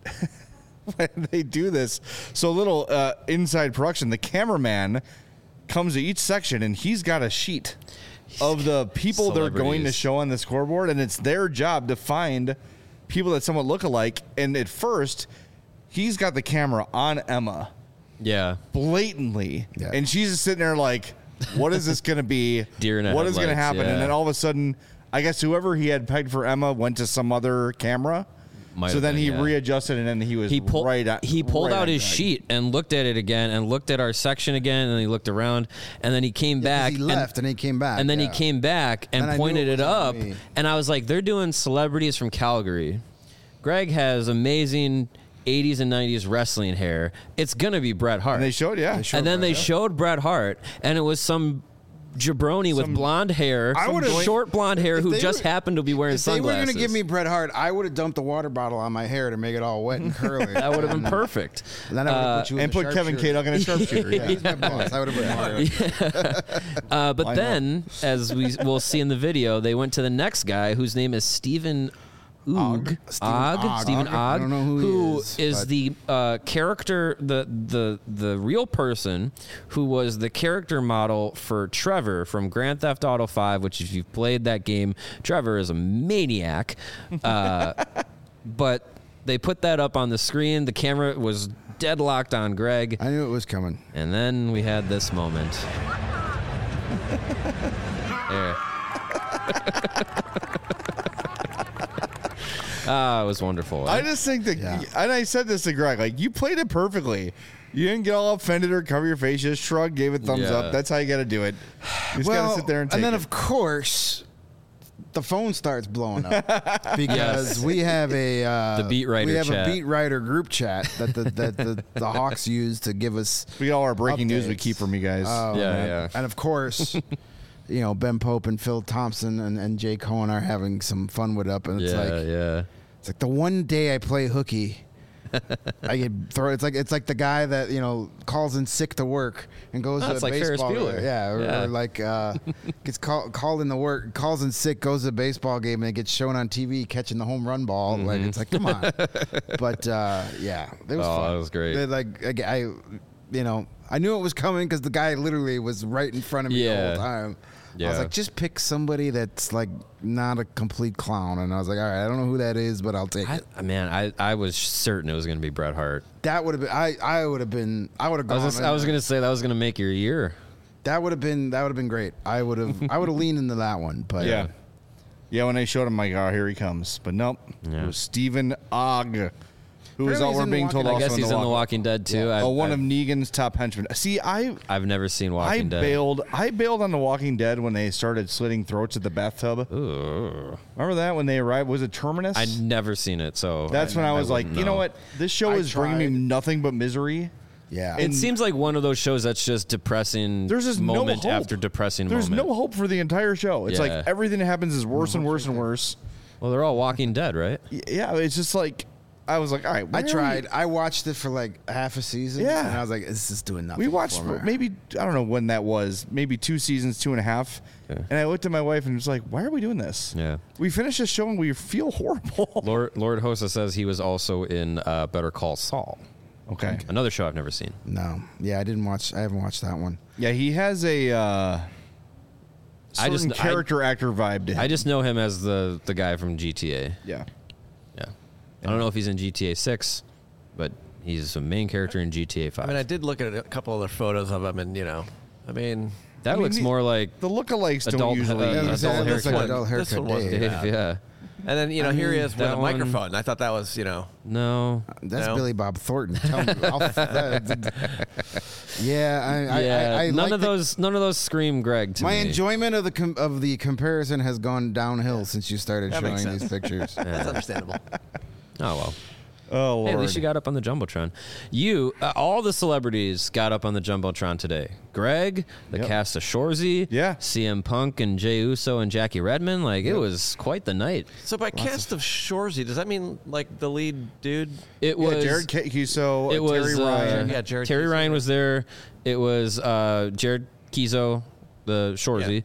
when they do this. So little inside production. The cameraman comes to each section, and he's got a sheet of the people they're going to Celebrities. show on the scoreboard, and it's their job to find people that somewhat look alike. And at first, he's got the camera on Emma Yeah. blatantly, Yeah. and she's just sitting there like, what is this going to be? Deer in the What is going to headlights, happen? yeah. And then all of a sudden, I guess whoever he had pegged for Emma went to some other camera. Might So have then been, he yeah. readjusted, and then he was He pulled. right at, He pulled right out on his Greg. sheet and looked at it again, and looked at our section again, and then he looked around, and then he came back. He left and he came back. and then he yeah. came back and And I knew pointed it it wasn't up, me. and I was like, "They're doing celebrities from Calgary." Greg has amazing 80s and 90s wrestling hair. It's gonna be Bret Hart. And they showed, yeah. And then they showed Bret Hart, and it was some jabroni with blonde hair, I would've- short blonde hair, If who they just were- happened to be wearing If they were sunglasses. going to give me Bret Hart, I would have dumped the water bottle on my hair to make it all wet and curly. that would have been perfect. And then I would have put you in And the put Kevin sharpshooter. K. in a sharpshooter. Yeah. He's my boss. I would have put Mario. But Why then, as will see in the video, they went to the next guy whose name is Stephen Ogg. Stephen Ogg. Stephen I Ogg. don't know who he is, but- the character, the real person who was the character model for Trevor from Grand Theft Auto 5, which if you've played that game, Trevor is a maniac. But they put that up on the screen. The camera was deadlocked on Greg. I knew it was coming. And then we had this moment. There. It was wonderful. I just think that, Yeah. and I said this to Greg, like, you played it perfectly. You didn't get all offended or cover your face. You just shrugged, gave it thumbs Yeah. up. That's how you got to do it. You just got to sit there and take then it. of course, the phone starts blowing up because Yes. we have a The beat writer We have chat. a beat writer group chat that the Hawks use to give us. We got all our breaking news we updates. keep from you guys. Oh, Yeah, man. yeah. And of course, Ben Pope and Phil Thompson and Jay Cohen are having some fun with it up, and it's yeah. like the one day I play hooky, I get throw. It's like the guy that calls in sick to work and goes Oh, to it's a like Ferris baseball Bueller. game. Yeah. Or like gets called in to work, calls in sick, goes to a baseball game, and it gets shown on TV catching the home run ball. Like it's like, come on. But yeah, it was Oh, fun. that was great. I knew it was coming because the guy literally was right in front of me the Yeah. whole time. I Yeah. was like, just pick somebody that's like not a complete clown. And I was like, all right, I don't know who that is, but I'll take it. I was certain it was going to be Bret Hart. That would have been. I would have been. I would have I gone. was going to say that was going to make your year. That would have been great. I would have leaned into that one. But yeah. Yeah, when they showed him, like, oh, here he comes. But nope. Yeah. It was Stephen Ogg, who is Apparently all he's we're in being told Walking- I also guess he's in The Walking Dead too. Yeah. one of Negan's top henchmen. See, I've never seen Walking Dead. I bailed on The Walking Dead when they started slitting throats at the bathtub. Ooh. Remember that when they arrived? Was it Terminus? I'd never seen it, so That's when I was like, wouldn't you know know. what? This show I is bringing me tried. nothing but misery. yeah. It seems like one of those shows that's just depressing. There's just moment no hope. after depressing There's moment. no hope for the entire show. It's Yeah. like everything that happens is worse and worse and worse. Well, they're all Walking Dead, right? Yeah, it's just like I was like, all right. I where are tried. we? I watched it for like half a season. Yeah. And I was like, this is doing nothing. We watched for me. maybe I don't know when that was. Maybe 2 seasons, 2.5. Yeah. And I looked at my wife and was like, why are we doing this? Yeah. We finished this show and we feel horrible. Lord Hosa says he was also in Better Call Saul, Okay. another show I've never seen. No. Yeah, I didn't watch. I haven't watched that one. Yeah, he has a certain character actor vibe to him. I just know him as the guy from GTA. Yeah. Yeah. I don't know if he's in GTA 6, but he's a main character in GTA 5. I mean, I did look at a couple other photos of him, and that looks more like the lookalikes don't adult, usually. adult That looks like haircut. adult This haircut one wasn't Dave. bad. Yeah. And then here he is with that a one- microphone. I thought that was No. That's No. Billy Bob Thornton. Tell me, yeah, I none like of those scream Greg to My me. enjoyment of the comparison has gone downhill since you started That makes showing these sense. pictures. that's understandable. Oh well. Oh Lord. Hey, at least you got up on the Jumbotron. All the celebrities got up on the Jumbotron today. Greg, the Yep. cast of Shorzy, Yeah. CM Punk and Jey Uso and Jackie Redmond. Like, it was quite the night. So by cast of Shorzy, does that mean like the lead dude? It Yeah, was Jared Cuso, It was Terry Ryan. Yeah, Jared Terry Keeso. Ryan was there. It was Jared Kizo, the Shorzy.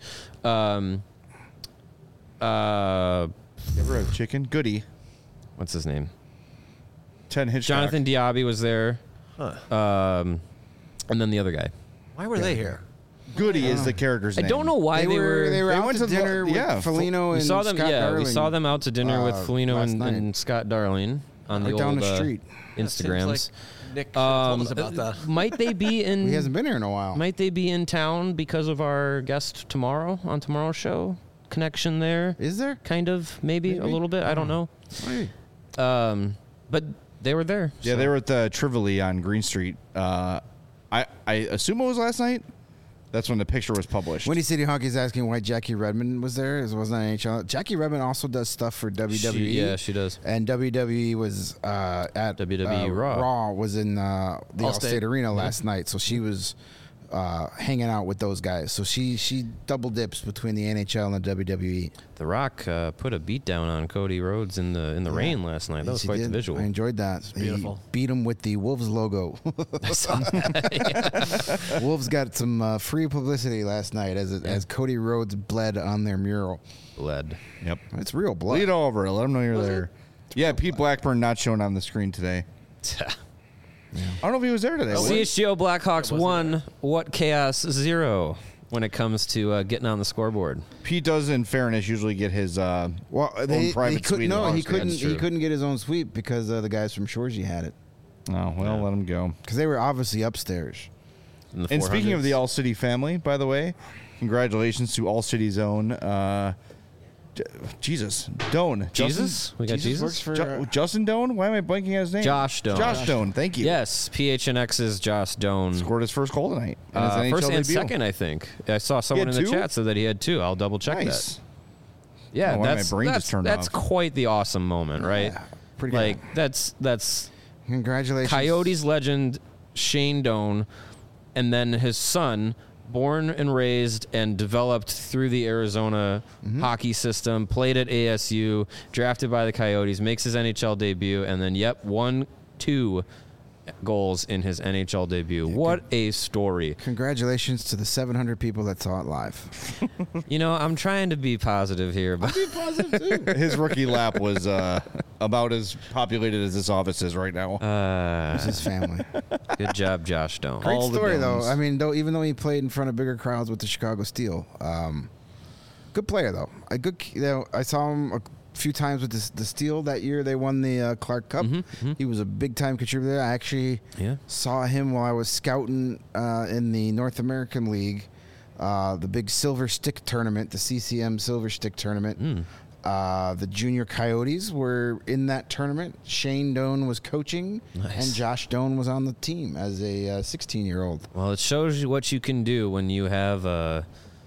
Ever have chicken? Goody. What's his name? Ted Hitchcock. Jonathan Diaby was there. And then the other guy. Why were they here? Goody is the character's I name. don't know why they were. they were out went to to the- dinner with yeah, Felino We and saw them. Scott Yeah, Darling, we saw them out to dinner with Felino last night. and Scott Darling on the Right down old the street. Seems Instagrams. like Nick should have told us about that. Might they be in? He hasn't been here in a while. Might they be in town because of our guest tomorrow on tomorrow's show? Connection there, Is there? kind of, maybe a little bit. I don't know. Hey. But they were there. Yeah, so. they were at the Trivoli on Green Street. I assume it was last night. That's when the picture was published. Windy City Hockey is asking why Jackie Redmond was there. It wasn't NHL. Jackie Redmond also does stuff for WWE. She does. And WWE was at WWE Raw. Raw was in the Allstate. Allstate Arena last night, so she was hanging out with those guys. So she double dips between the NHL and the WWE. The Rock put a beat down on Cody Rhodes in the rain last night. That was She quite the did. visual. I enjoyed that. He beautiful. beat him with the Wolves logo. Wolves got some free publicity last night as Cody Rhodes bled on their mural. Bled. Yep. It's real blood. Lead over. Let them know you're there. Yeah, Pete Blackburn not shown on the screen today. I don't know if he was there today. was he? CHGO Blackhawks 1, what Chaos 0 when it comes to getting on the scoreboard. Pete does, in fairness, usually get his Well, own private suite. No, at he Allstate. couldn't. That's He true. couldn't get his own suite because the guys from Shorzy had it. Oh, well, let him go. Because they were obviously upstairs. In the And speaking of 400s. the All City family, by the way, congratulations to All City's own Jesus Doan. Jesus? We got Jesus? works for Justin Doan? Why am I blanking on his name? Josh Doan. Josh Doan. Thank you. Yes, PHNX's Josh Doan. Scored his first goal tonight. in his NHL First and debut. second, I think. I saw someone in had the two? chat said that he had 2. I'll double check Nice. that. Yeah, Oh, why my that's brain just that's, turned that's off. quite the awesome moment, right? Yeah, pretty like good. that's Congratulations, Coyotes legend Shane Doan, and then his son, born and raised and developed through the Arizona hockey system, played at ASU, drafted by the Coyotes, makes his NHL debut, and then 1-2 goals in his NHL debut. What a story. Congratulations to the 700 people that saw it live. You know, I'm trying to be positive here, but His rookie lap was about as populated as this office is right now. It's his family. good job, Josh Doan. Great all the story, though. Doans. I mean, even though he played in front of bigger crowds with the Chicago Steel, good player though. I saw him a few times with the Steel that year. They won the Clark Cup. He was a big time contributor. I actually Yeah. saw him while I was scouting in the North American League, the big Silver Stick tournament, the CCM Silver Stick tournament. The junior Coyotes were in that tournament. Shane Doan was coaching, Nice. and Josh Doan was on the team as a 16-year-old. Well, it shows you what you can do when you have a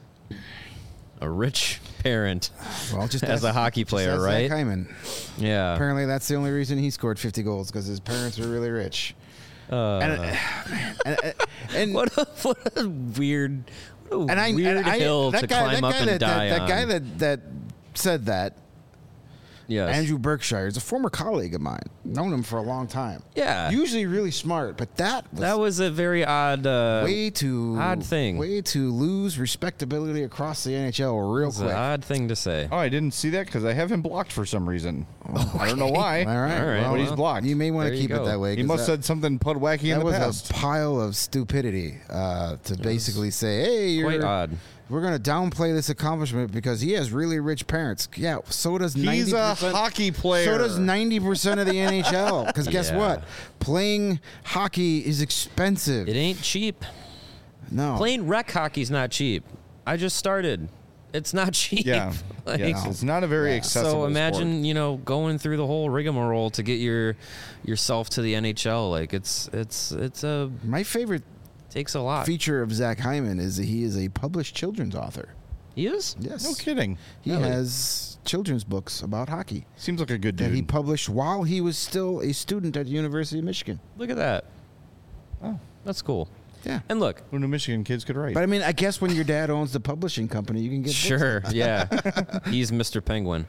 rich parent Well, just as a hockey player, Zach right? Hyman. Yeah. Apparently, that's the only reason he scored 50 goals because his parents were really rich. And What a weird, and I, weird and I- hill that to guy, climb that up guy and that, die that, on. that guy that said that, yes. Andrew Berkshire, is a former colleague of mine. Known him for a long time. Yeah. Usually really smart, but that was a very odd, way too odd thing. Way to lose respectability across the NHL real it's an quick. odd thing to say. Oh, I didn't see that because I have him blocked for some reason. I don't know why. All right, All right. But he's blocked. You may want There to you keep it go. that way. He 'cause must have that, said something pud wacky in that the was past. a pile of stupidity to basically say, "Hey, Quite you're odd. we're gonna downplay this accomplishment because he has really rich parents. Yeah, so does 90%. He's a hockey player. So does 90% of the NHL. Because guess Yeah. what? Playing hockey is expensive. It ain't cheap. No. Playing rec hockey's not cheap. I just started. It's not cheap. Yeah. Like, Yeah, it's not a very accessible So imagine, sport. going through the whole rigmarole to get yourself to the NHL. Like it's My favorite takes a lot. feature of Zach Hyman is that he is a published children's author. He is? Yes. No kidding. He Really? has children's books about hockey Seems like a good that he dude. published while he was still a student at the University of Michigan. Look at that. Oh, That's cool. Yeah. And look, who knew Michigan kids could write? But I mean, I guess when your dad owns the publishing company, you can get books. sure, yeah. He's Mr. Penguin.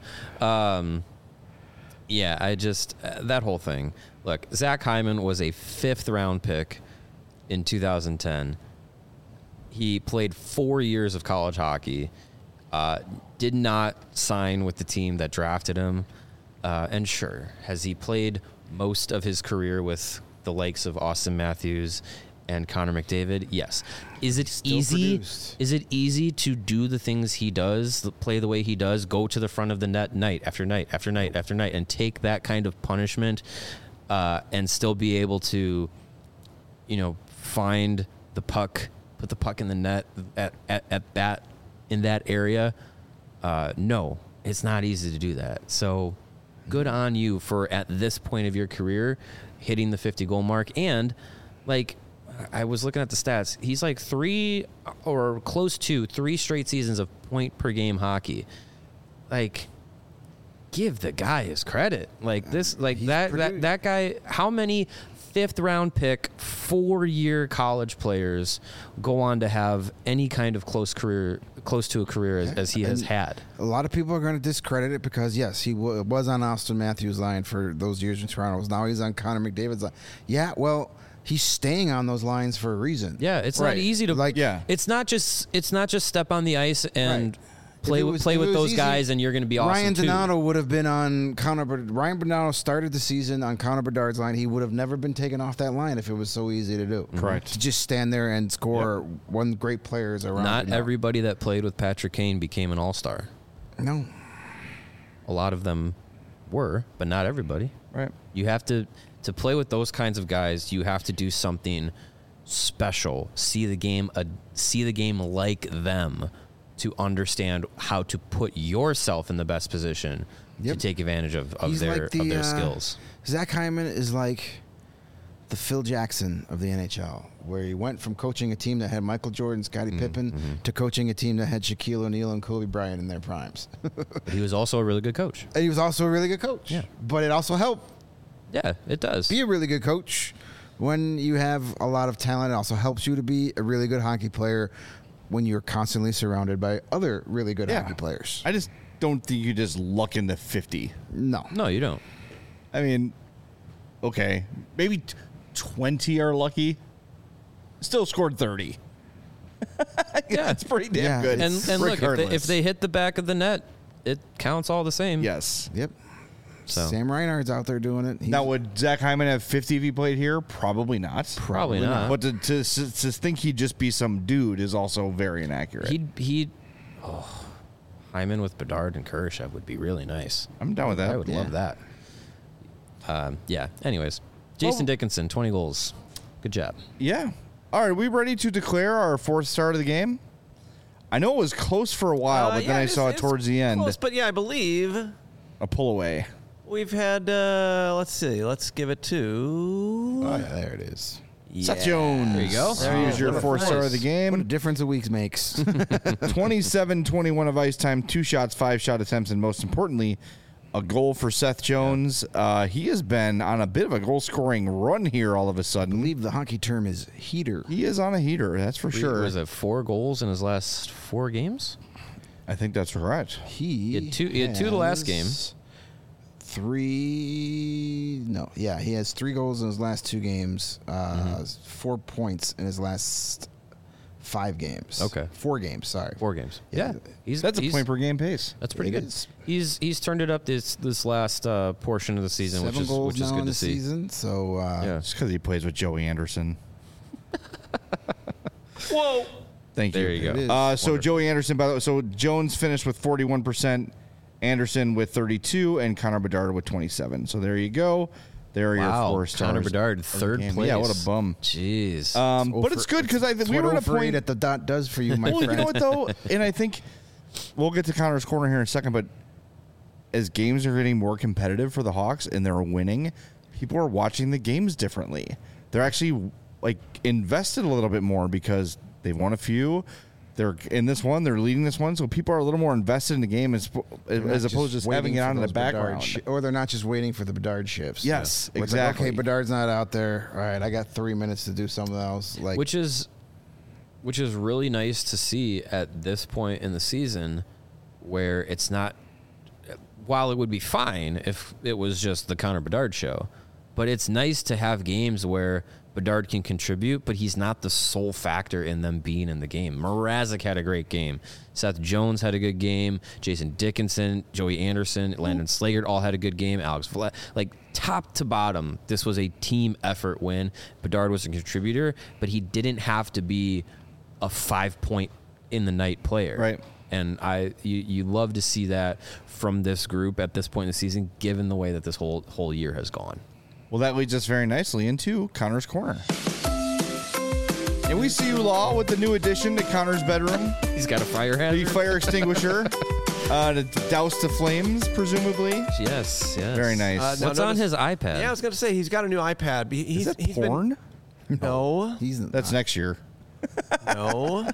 Yeah, I just that whole thing. Look, Zach Hyman was a 5th round pick in 2010. He played 4 years of college hockey. Did not sign with the team that drafted him. And sure, has he played most of his career with the likes of Austin Matthews and Connor McDavid? Yes. Is it Still easy? produced. Is it easy to do the things he does, play the way he does, go to the front of the net night after night after night after night, and take that kind of punishment, and still be able to, find the puck, put the puck in the net in that area? No, it's not easy to do that. So, good on you for at this point of your career hitting the 50 goal mark. And like, I was looking at the stats. He's like 3 or close to 3 straight seasons of point per game hockey. Like, give the guy his credit. Like this, like He's that guy. How many 5th round pick 4-year college players go on to have any kind of close to a career as he has And had? A lot of people are going to discredit it because, yes, he was on Austin Matthews' line for those years in Toronto. Now he's on Connor McDavid's line. Yeah, well, he's staying on those lines for a reason. Yeah, it's Right. not easy to Like- Yeah. It's not just step on the ice and Right. play If it with was- play if with it was those easy, guys, and you're going to be awesome Ryan too. Donato would have been on Ryan Donato started the season on Connor Bedard's line. He would have never been taken off that line if it was so easy to do. Correct. To just stand there and score one great players around. Not you. No. everybody that played with Patrick Kane became an all-star. No. A lot of them were, but not everybody. Right. You have to play with those kinds of guys. You have to do something special. See the game like them to understand how to put yourself in the best position to Yep. take advantage of He's their like the, skills. Zach Hyman is like the Phil Jackson of the NHL, where he went from coaching a team that had Michael Jordan, Scottie Pippen, to coaching a team that had Shaquille O'Neal and Kobe Bryant in their primes. But he was also a really good coach. And he was also a really good coach. Yeah. But it also helped Yeah, it does. be a really good coach when you have a lot of talent. It also helps you to be a really good hockey player when you're constantly surrounded by other really good hockey players. I just don't think you just luck into 50. No. No, you don't. I mean, okay, maybe 20 are lucky. Still scored 30. Yeah, it's pretty damn Yeah, good. And look, if regardless. they hit the back of the net, it counts all the same. Yes. Yep. So Sam Reinhardt's out there doing it. He's- Now, would Zach Hyman have 50 if he played here? Probably not. Probably not. But to think he'd just be some dude is also very inaccurate. Hyman with Bedard and Kurashev would be really nice. I'm down with that. I would love that. Yeah. Anyways, Jason Well- Dickinson, 20 goals. Good job. Yeah. All right, are we ready to declare our 4th start of the game? I know it was close for a while, but then I saw it towards the end. Close, but yeah, I believe A pull away. we've had. Let's see. Let's give it to. Oh, yeah, there it is. Seth Jones. There you go. Here's your What a 4th star of the What a game. difference a week makes. 27-21 of ice time, 2 shots, 5 shot attempts, and most importantly, a goal for Seth Jones. He has been on a bit of a goal-scoring run here all of a I sudden. believe the hockey term is heater. He is on a heater, that's for sure. Was it 4 goals in his last 4 games? I think that's correct. He had two the last game. has 3. No, yeah, he has 3 goals in his last 2 games. 4 points in his last 5 games. Okay. 4 games. Sorry. 4 games. Yeah. That's a point per game pace. That's pretty It good. is. He's turned it up this last portion of the season, 7 goals which is now good in to the see. season. So Yeah. Just because he plays with Joey Anderson. Whoa. Thank you. There you go. It is. So Wonderful. Joey Anderson, by the way, so Jones finished with 41%, Anderson with 32, and Connor Bedard with 27. So there you go. There are your Wow, 4 stars. Connor Bedard, of the third game. place. Yeah, what a bum. Jeez. But it's good because we were at a point that the dot does for you, my Well, friend. you know what though, and I think we'll get to Connor's corner here in a second. But as games are getting more competitive for the Hawks and they're winning, people are watching the games differently. They're actually like invested a little bit more because they've won a few. They're in this one. They're leading this one, so people are a little more invested in the game as opposed to just having it on in the background. Or they're not just waiting for the Bedard shifts. Yes, Where it's exactly. Like, okay, Bedard's not out there. All right, I got 3 minutes to do something else. Like, which is really nice to see at this point in the season, where it's not. While it would be fine if it was just the Connor Bedard show, but it's nice to have games where Bedard can contribute, but he's not the sole factor in them being in the game. Mrazek had a great game. Seth Jones had a good game. Jason Dickinson, Joey Anderson, Landon Slaggert all had a good game. Alex Vlad, like top to bottom, this was a team effort win. Bedard was a contributor, but he didn't have to be a 5-point in the night player. Right. And you love to see that from this group at this point in the season, given the way that this whole year has gone. Well, that leads us very nicely into Connor's corner. And we see you, Law, with the new addition to Connor's bedroom. He's got a fire The hazard. fire extinguisher to douse the flames, presumably. Yes. Very nice. No, What's no, on this- his iPad? Yeah, I was going to say he's got a new iPad. Is that porn? No, That's next year. no.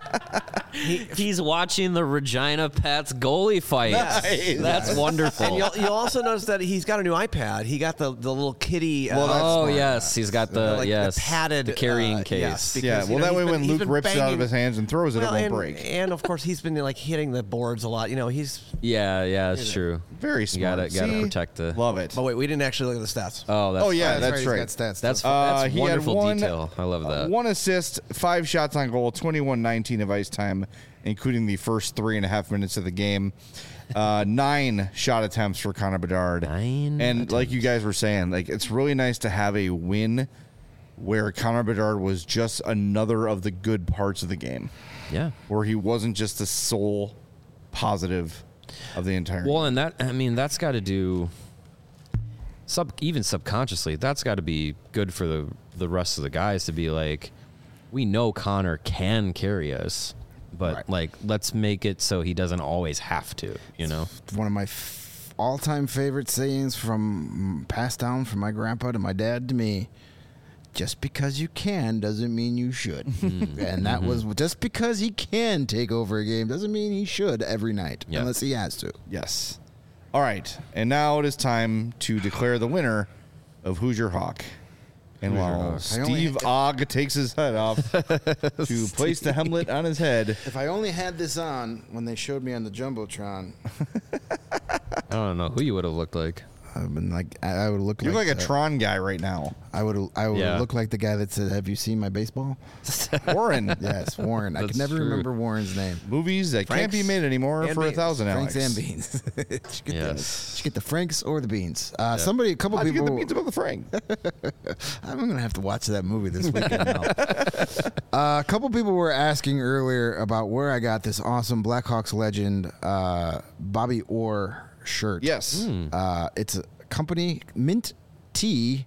He's watching the Regina Pats goalie fight. Nice. That's wonderful. And you'll also notice that he's got a new iPad. He got the little kitty. Well, that's oh smart. yes, he's got the like yes the padded the carrying case. yes, because, Yeah, you well, know, that way he's when been- he's Luke been rips it out of banging- his hands and throws it, Well, it won't and, break. and of course he's been like hitting the boards a lot. You know, he's. Yeah, it's true. Very You smart. gotta See? protect the. Love it. But wait, we didn't actually look at the stats. Oh, that's Oh, yeah, fine. that's He's right. got stats. That's He had wonderful one- detail. I love that. 1 assist, 5 shots on goal, 21-19 of ice time, including the first 3.5 minutes of the game. 9 shot attempts for Connor Bedard. 9 And like you guys were saying, like it's really nice to have a win where Connor Bedard was just another of the good parts of the game, Yeah. where he wasn't just the sole positive of the entire Well, game. and that's got to do even subconsciously. That's got to be good for the rest of the guys to be like, we know Connor can carry us, but Right. like let's make it so he doesn't always have to. You know. One of my all-time favorite sayings from passed down from my grandpa to my dad to me. Just because you can doesn't mean you should. And that was just because he can take over a game doesn't mean he should every night, Yeah. unless he has to. Yes. All right. And now it is time to declare the winner of Who's Your Hawk. And while I only Steve had- Ogg takes his head off to place the helmet on his head. If I only had this on when they showed me on the Jumbotron, I don't know who you would have looked like. I've been like, I would look You look like a the- Tron guy right now. I would Yeah. look like the guy that said, "Have you seen my baseball?" Warren. Yes, Warren. I could That's never true. remember Warren's name. Movies that can't be Frank's anymore anymore and for beans. $1,000, Alex. Franks and beans. Should get Yes. should get the Franks or the beans. A couple How'd you people. get the beans above the Frank? I'm gonna have to watch that movie this weekend now. A couple people were asking earlier about where I got this awesome Blackhawks legend Bobby Orr shirt. Yes. It's a company Mint T.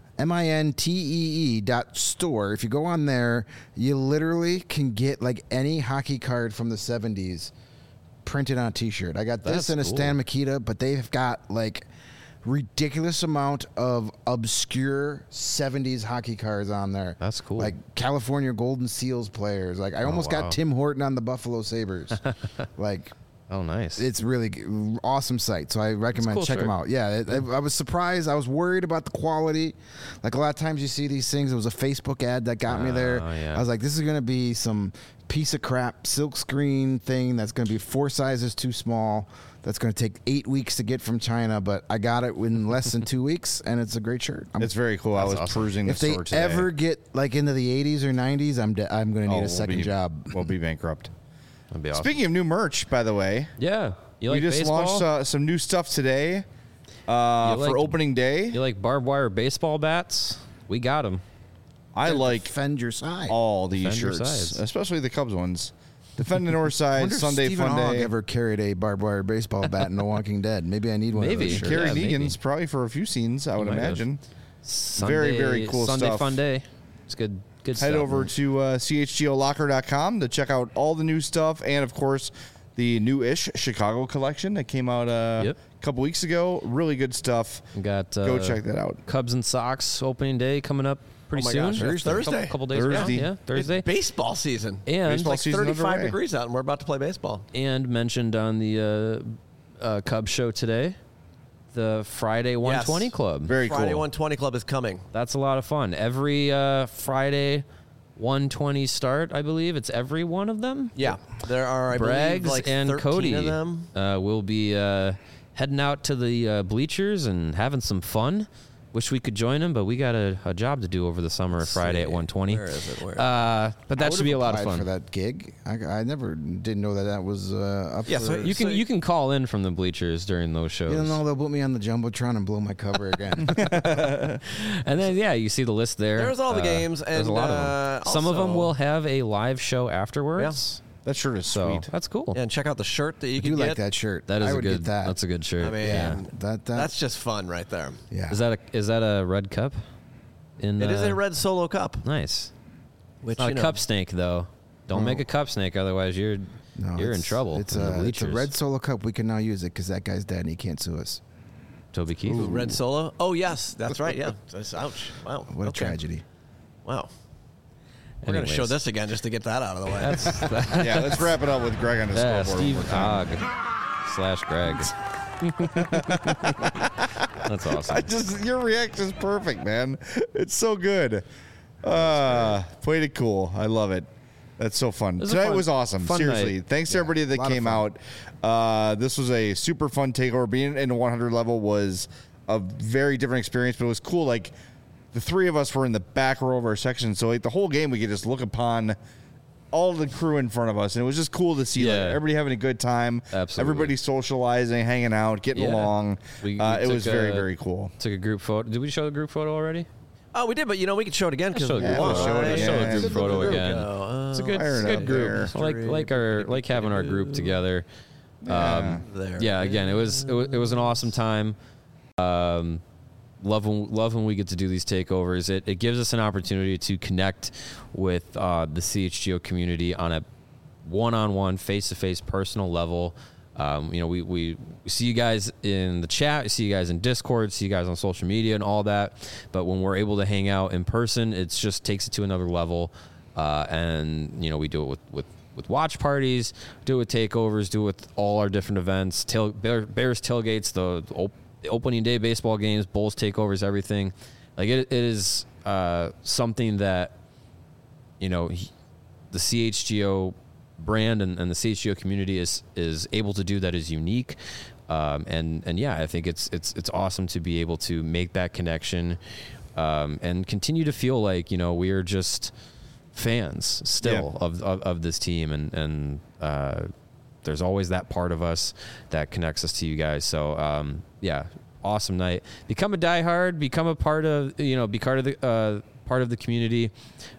MINTEE.store. If you go on there, you literally can get like any hockey card from the 70s printed on a t-shirt. I got this That's and a cool. Stan Mikita, but they've got like ridiculous amount of obscure 70s hockey cards on there. That's cool. Like California Golden Seals players. Like I almost wow. got Tim Horton on the Buffalo Sabres. Like Oh, nice. it's really awesome site, so I recommend cool check them shirt. out. Yeah, I was surprised. I was worried about the quality. Like a lot of times you see these things. It was a Facebook ad that got me there. yeah. I was like, this is going to be some piece of crap silk screen thing that's going to be 4 sizes too small. That's going to take 8 weeks to get from China, but I got it in less than 2 weeks, and it's a great shirt. It's very cool. I was awesome. perusing the if they store today. ever get like into the 80s or 90s, I'm going to need Oh, a second job. We'll be bankrupt. That'd be awesome. Speaking of new merch, by the way, Yeah. You like we just baseball? launched some new stuff today like- for opening day. You like barbed wire baseball bats? We got them. I like defend your side. all these Defend your shirts, sides. especially the Cubs ones. Defend the North Side, Wonder if Sunday Stephen Fun Hogg Day. ever carried a barbed wire baseball bat in The Walking Dead? Maybe I need one Maybe. of those shirts. Carrie Yeah, maybe. Negan's probably for a few scenes, I would might have. imagine. Sunday, very cool Sunday stuff. Fun Day. It's good. Good Head stuff. over to chgolocker.com to check out all the new stuff and, of course, the new-ish Chicago collection that came out a couple weeks ago. Really good stuff. We got Go check that out. Cubs and Sox opening day coming up pretty Oh my soon. gosh, that's Thursday. Couple days Thursday. ago. Yeah, Thursday. It's baseball season. And Baseball Like season 35 underway. degrees out, and we're about to play baseball. and mentioned on the Cubs show today, the Friday 120 Club. Very Friday cool. 120 Club is coming. That's a lot of fun. Every Friday 120 start, I believe. It's every one of them. Yeah, there are, I believe, Braggs like and 13 Cody of them. will be heading out to the bleachers and having some fun. Wish we could join them, but we got a job to do over the summer. Friday at 120. Where is it? Where? But that should be a lot of for fun. that gig. I never didn't know that was up. Yeah, for, so You can call in from the bleachers during those shows. You don't know they'll put me on the jumbotron and blow my cover again. And then you see the list there. There's all the games, there's and a lot of them. Some of them also- will have a live show afterwards. That shirt is So sweet. that's cool. Yeah, and check out the shirt that you I can do get. like that shirt. That is I a would good. get that. That's a good shirt. I mean, yeah. that's just fun right there. yeah. Is that a red cup? In It is a red Solo cup, Nice. which Not you a know, cup snake though. Don't make a cup snake, otherwise you're No, in it's- trouble. It's in the a bleachers. red Solo cup. We can now use it because that guy's dead and he can't sue us. Toby Keith. red Solo. Oh yes, that's right. Yeah. Ouch. Wow. What a Okay. tragedy. Wow. We're going to show Anyways. this again just to get that out of the way. That's Yeah, let's wrap it up with Greg on his yeah, scoreboard. Steve one more time. Ogg / Greg. That's awesome. Your reaction is perfect, man. It's so good. Played it cool. I love it. That's so fun. was a Tonight fun- was awesome. fun Seriously. night. Thanks to everybody that lot of came fun. out. This was a super fun takeover. Being in the 100 level was a very different experience, but it was cool. Like, the three of us were in the back row of our section, so like the whole game we could just look upon all the crew in front of us, and it was just cool to see like, Yeah. everybody having a good time. Absolutely. Everybody socializing, hanging out, getting Yeah. along. We It took was very, very cool. Took a group photo. Did we show the group photo already? Oh, we did, but we could show it again because Show the group we'll photo. show it Let's again. show the group Good photo group. again. Go. It's a good, Fire it's it a up good group. there. Like having our group together. There. Yeah, again, it was an awesome time. Love when we get to do these takeovers. It gives us an opportunity to connect with the CHGO community on a one-on-one, face-to-face, personal level. We see you guys in the chat, we see you guys in Discord, see you guys on social media and all that. But when we're able to hang out in person, it just takes it to another level. And we do it with watch parties, do it with takeovers, do it with all our different events, Bears tailgates, the opening day baseball games, Bulls takeovers, everything. Like it is something that the CHGO brand and the CHGO community is able to do that is unique. And yeah, I think it's awesome to be able to make that connection and continue to feel like we are just fans still of this team and there's always that part of us that connects us to you guys. So yeah, awesome night. Become a diehard. Become a part of be part of the community.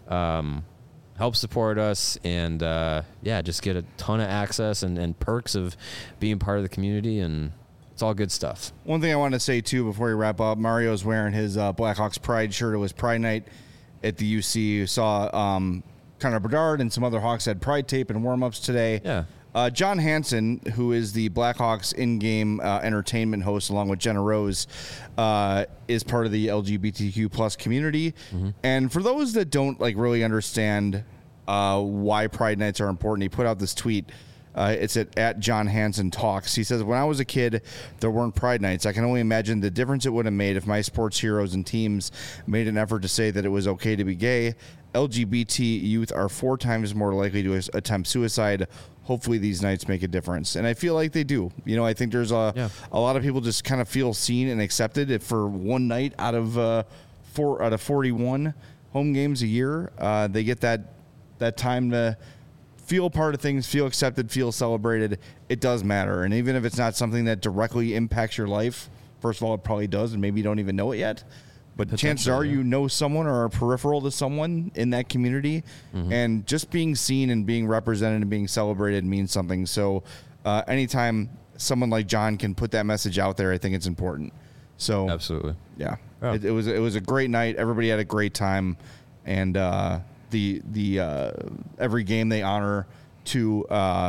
Help support us and just get a ton of access and perks of being part of the community, and it's all good stuff. One thing I want to say too before we wrap up, Mario's wearing his Blackhawks Pride shirt. It was Pride Night at the UC. You saw Connor Bedard and some other Hawks had Pride tape and warm-ups today. Yeah. John Hansen, who is the Blackhawks in-game entertainment host along with Jenna Rose, is part of the LGBTQ plus community. Mm-hmm. And for those that don't really understand why Pride Nights are important, he put out this tweet. It's at John Hansen Talks. He says, when I was a kid, there weren't Pride Nights. I can only imagine the difference it would have made if my sports heroes and teams made an effort to say that it was okay to be gay. LGBT youth are 4 times more likely to attempt suicide. Hopefully these nights make a difference. And I feel like they do. I think there's a lot of people just kind of feel seen and accepted if for one night out of 41 home games a year. They get that time to feel part of things, feel accepted, feel celebrated. It does matter. And even if it's not something that directly impacts your life, first of all, it probably does, and maybe you don't even know it yet. but chances are you know someone or are peripheral to someone in that community, and just being seen and being represented and being celebrated means something. So anytime someone like John can put that message out there, I think it's important. So Absolutely. yeah, Yeah. It was a great night. Everybody had a great time, and the every game they honor two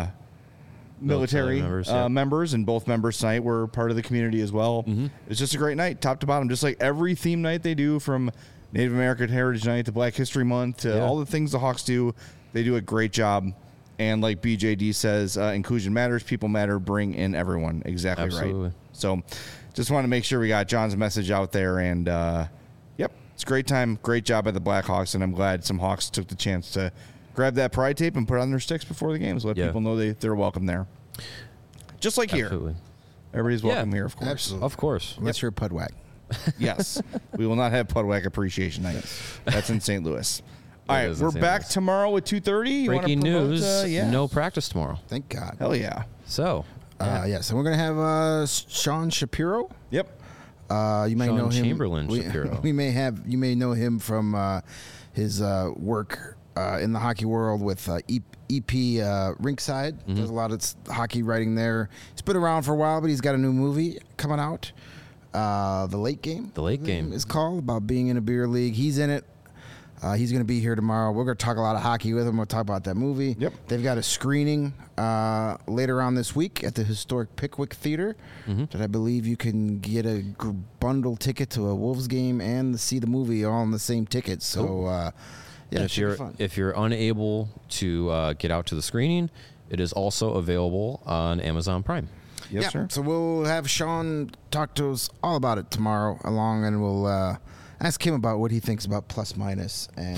military members, and both members tonight were part of the community as well. It's just a great night, top to bottom, just like every theme night they do, from Native American Heritage Night to Black History Month to all the things the Hawks do. They do a great job. And like BJD says, inclusion matters, people matter, bring in everyone. Exactly Absolutely. right. So just want to make sure we got John's message out there. And yep, it's a great time. Great job by the Blackhawks. And I'm glad some Hawks took the chance to grab that pride tape and put it on their sticks before the games. Let people know they're welcome there. Just like Absolutely. here. Everybody's welcome here, of course. Absolutely. Of course. Unless you're Pudwack. Yes. We will not have Pudwack Appreciation Night. That's in St. Louis. All right, is in we're St. back Louis. tomorrow with 2:30. Breaking news, no practice tomorrow. Thank God. Hell yeah. So, Yes, and we're going to have Sean Shapiro. Yep. You may Sean know him. Chamberlain Shapiro. You may know him from his work in the hockey world with EP Rinkside. There's a lot of hockey writing there. He's been around for a while, but he's got a new movie coming out. The Late Game. The Late Game is called, about being in a beer league. He's in it. He's going to be here tomorrow. We're going to talk a lot of hockey with him. We'll talk about that movie. Yep. They've got a screening later on this week at the historic Pickwick Theater that I believe you can get a bundle ticket to a Wolves game and see the movie all in the same ticket. So, yeah, and it should be fun. if you're unable to get out to the screening, it is also available on Amazon Prime. Yes, sir. So we'll have Sean talk to us all about it tomorrow and we'll ask him about what he thinks about plus minus and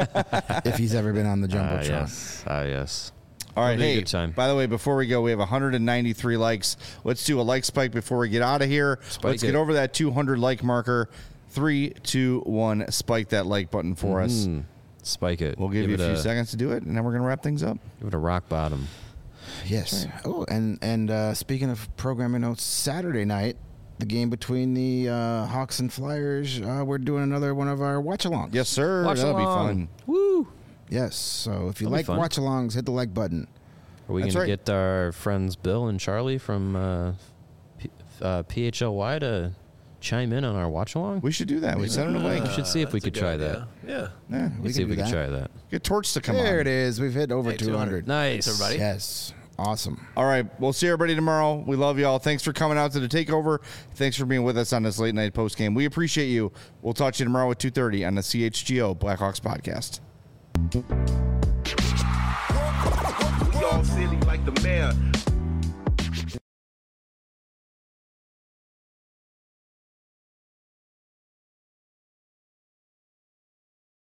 if he's ever been on the Jumbotron. Yes. All right, It'll be a hey, good time. by the way, before we go, we have 193 likes. Let's do a like spike before we get out of here. Let's get over that 200 like marker. 3, 2, 1, spike that like button for us. Spike it. We'll give you a few seconds to do it, and then we're going to wrap things up. Give it a rock bottom. Yes. Right. Oh, and speaking of programming notes, Saturday night, the game between the Hawks and Flyers, we're doing another one of our watch-alongs. Yes, sir. That'll be fun. Woo! Yes. So if you That'll like be fun. watch-alongs, hit the like button. Are we going That's to right. get our friends Bill and Charlie from PHLY to chime in on our watch-along? We should do that. We send them a link. We should see if we could try that. Yeah. Yeah. Let's see if we do could that. try that. Get Torch to come on. There it is. We've hit over Hey, 200. Nice. Thanks, everybody. Yes. Awesome. All right. We'll see everybody tomorrow. We love y'all. Thanks for coming out to the takeover. Thanks for being with us on this late night post game. We appreciate you. We'll talk to you tomorrow at 2:30 on the CHGO Blackhawks podcast. Y'all silly like the mayor.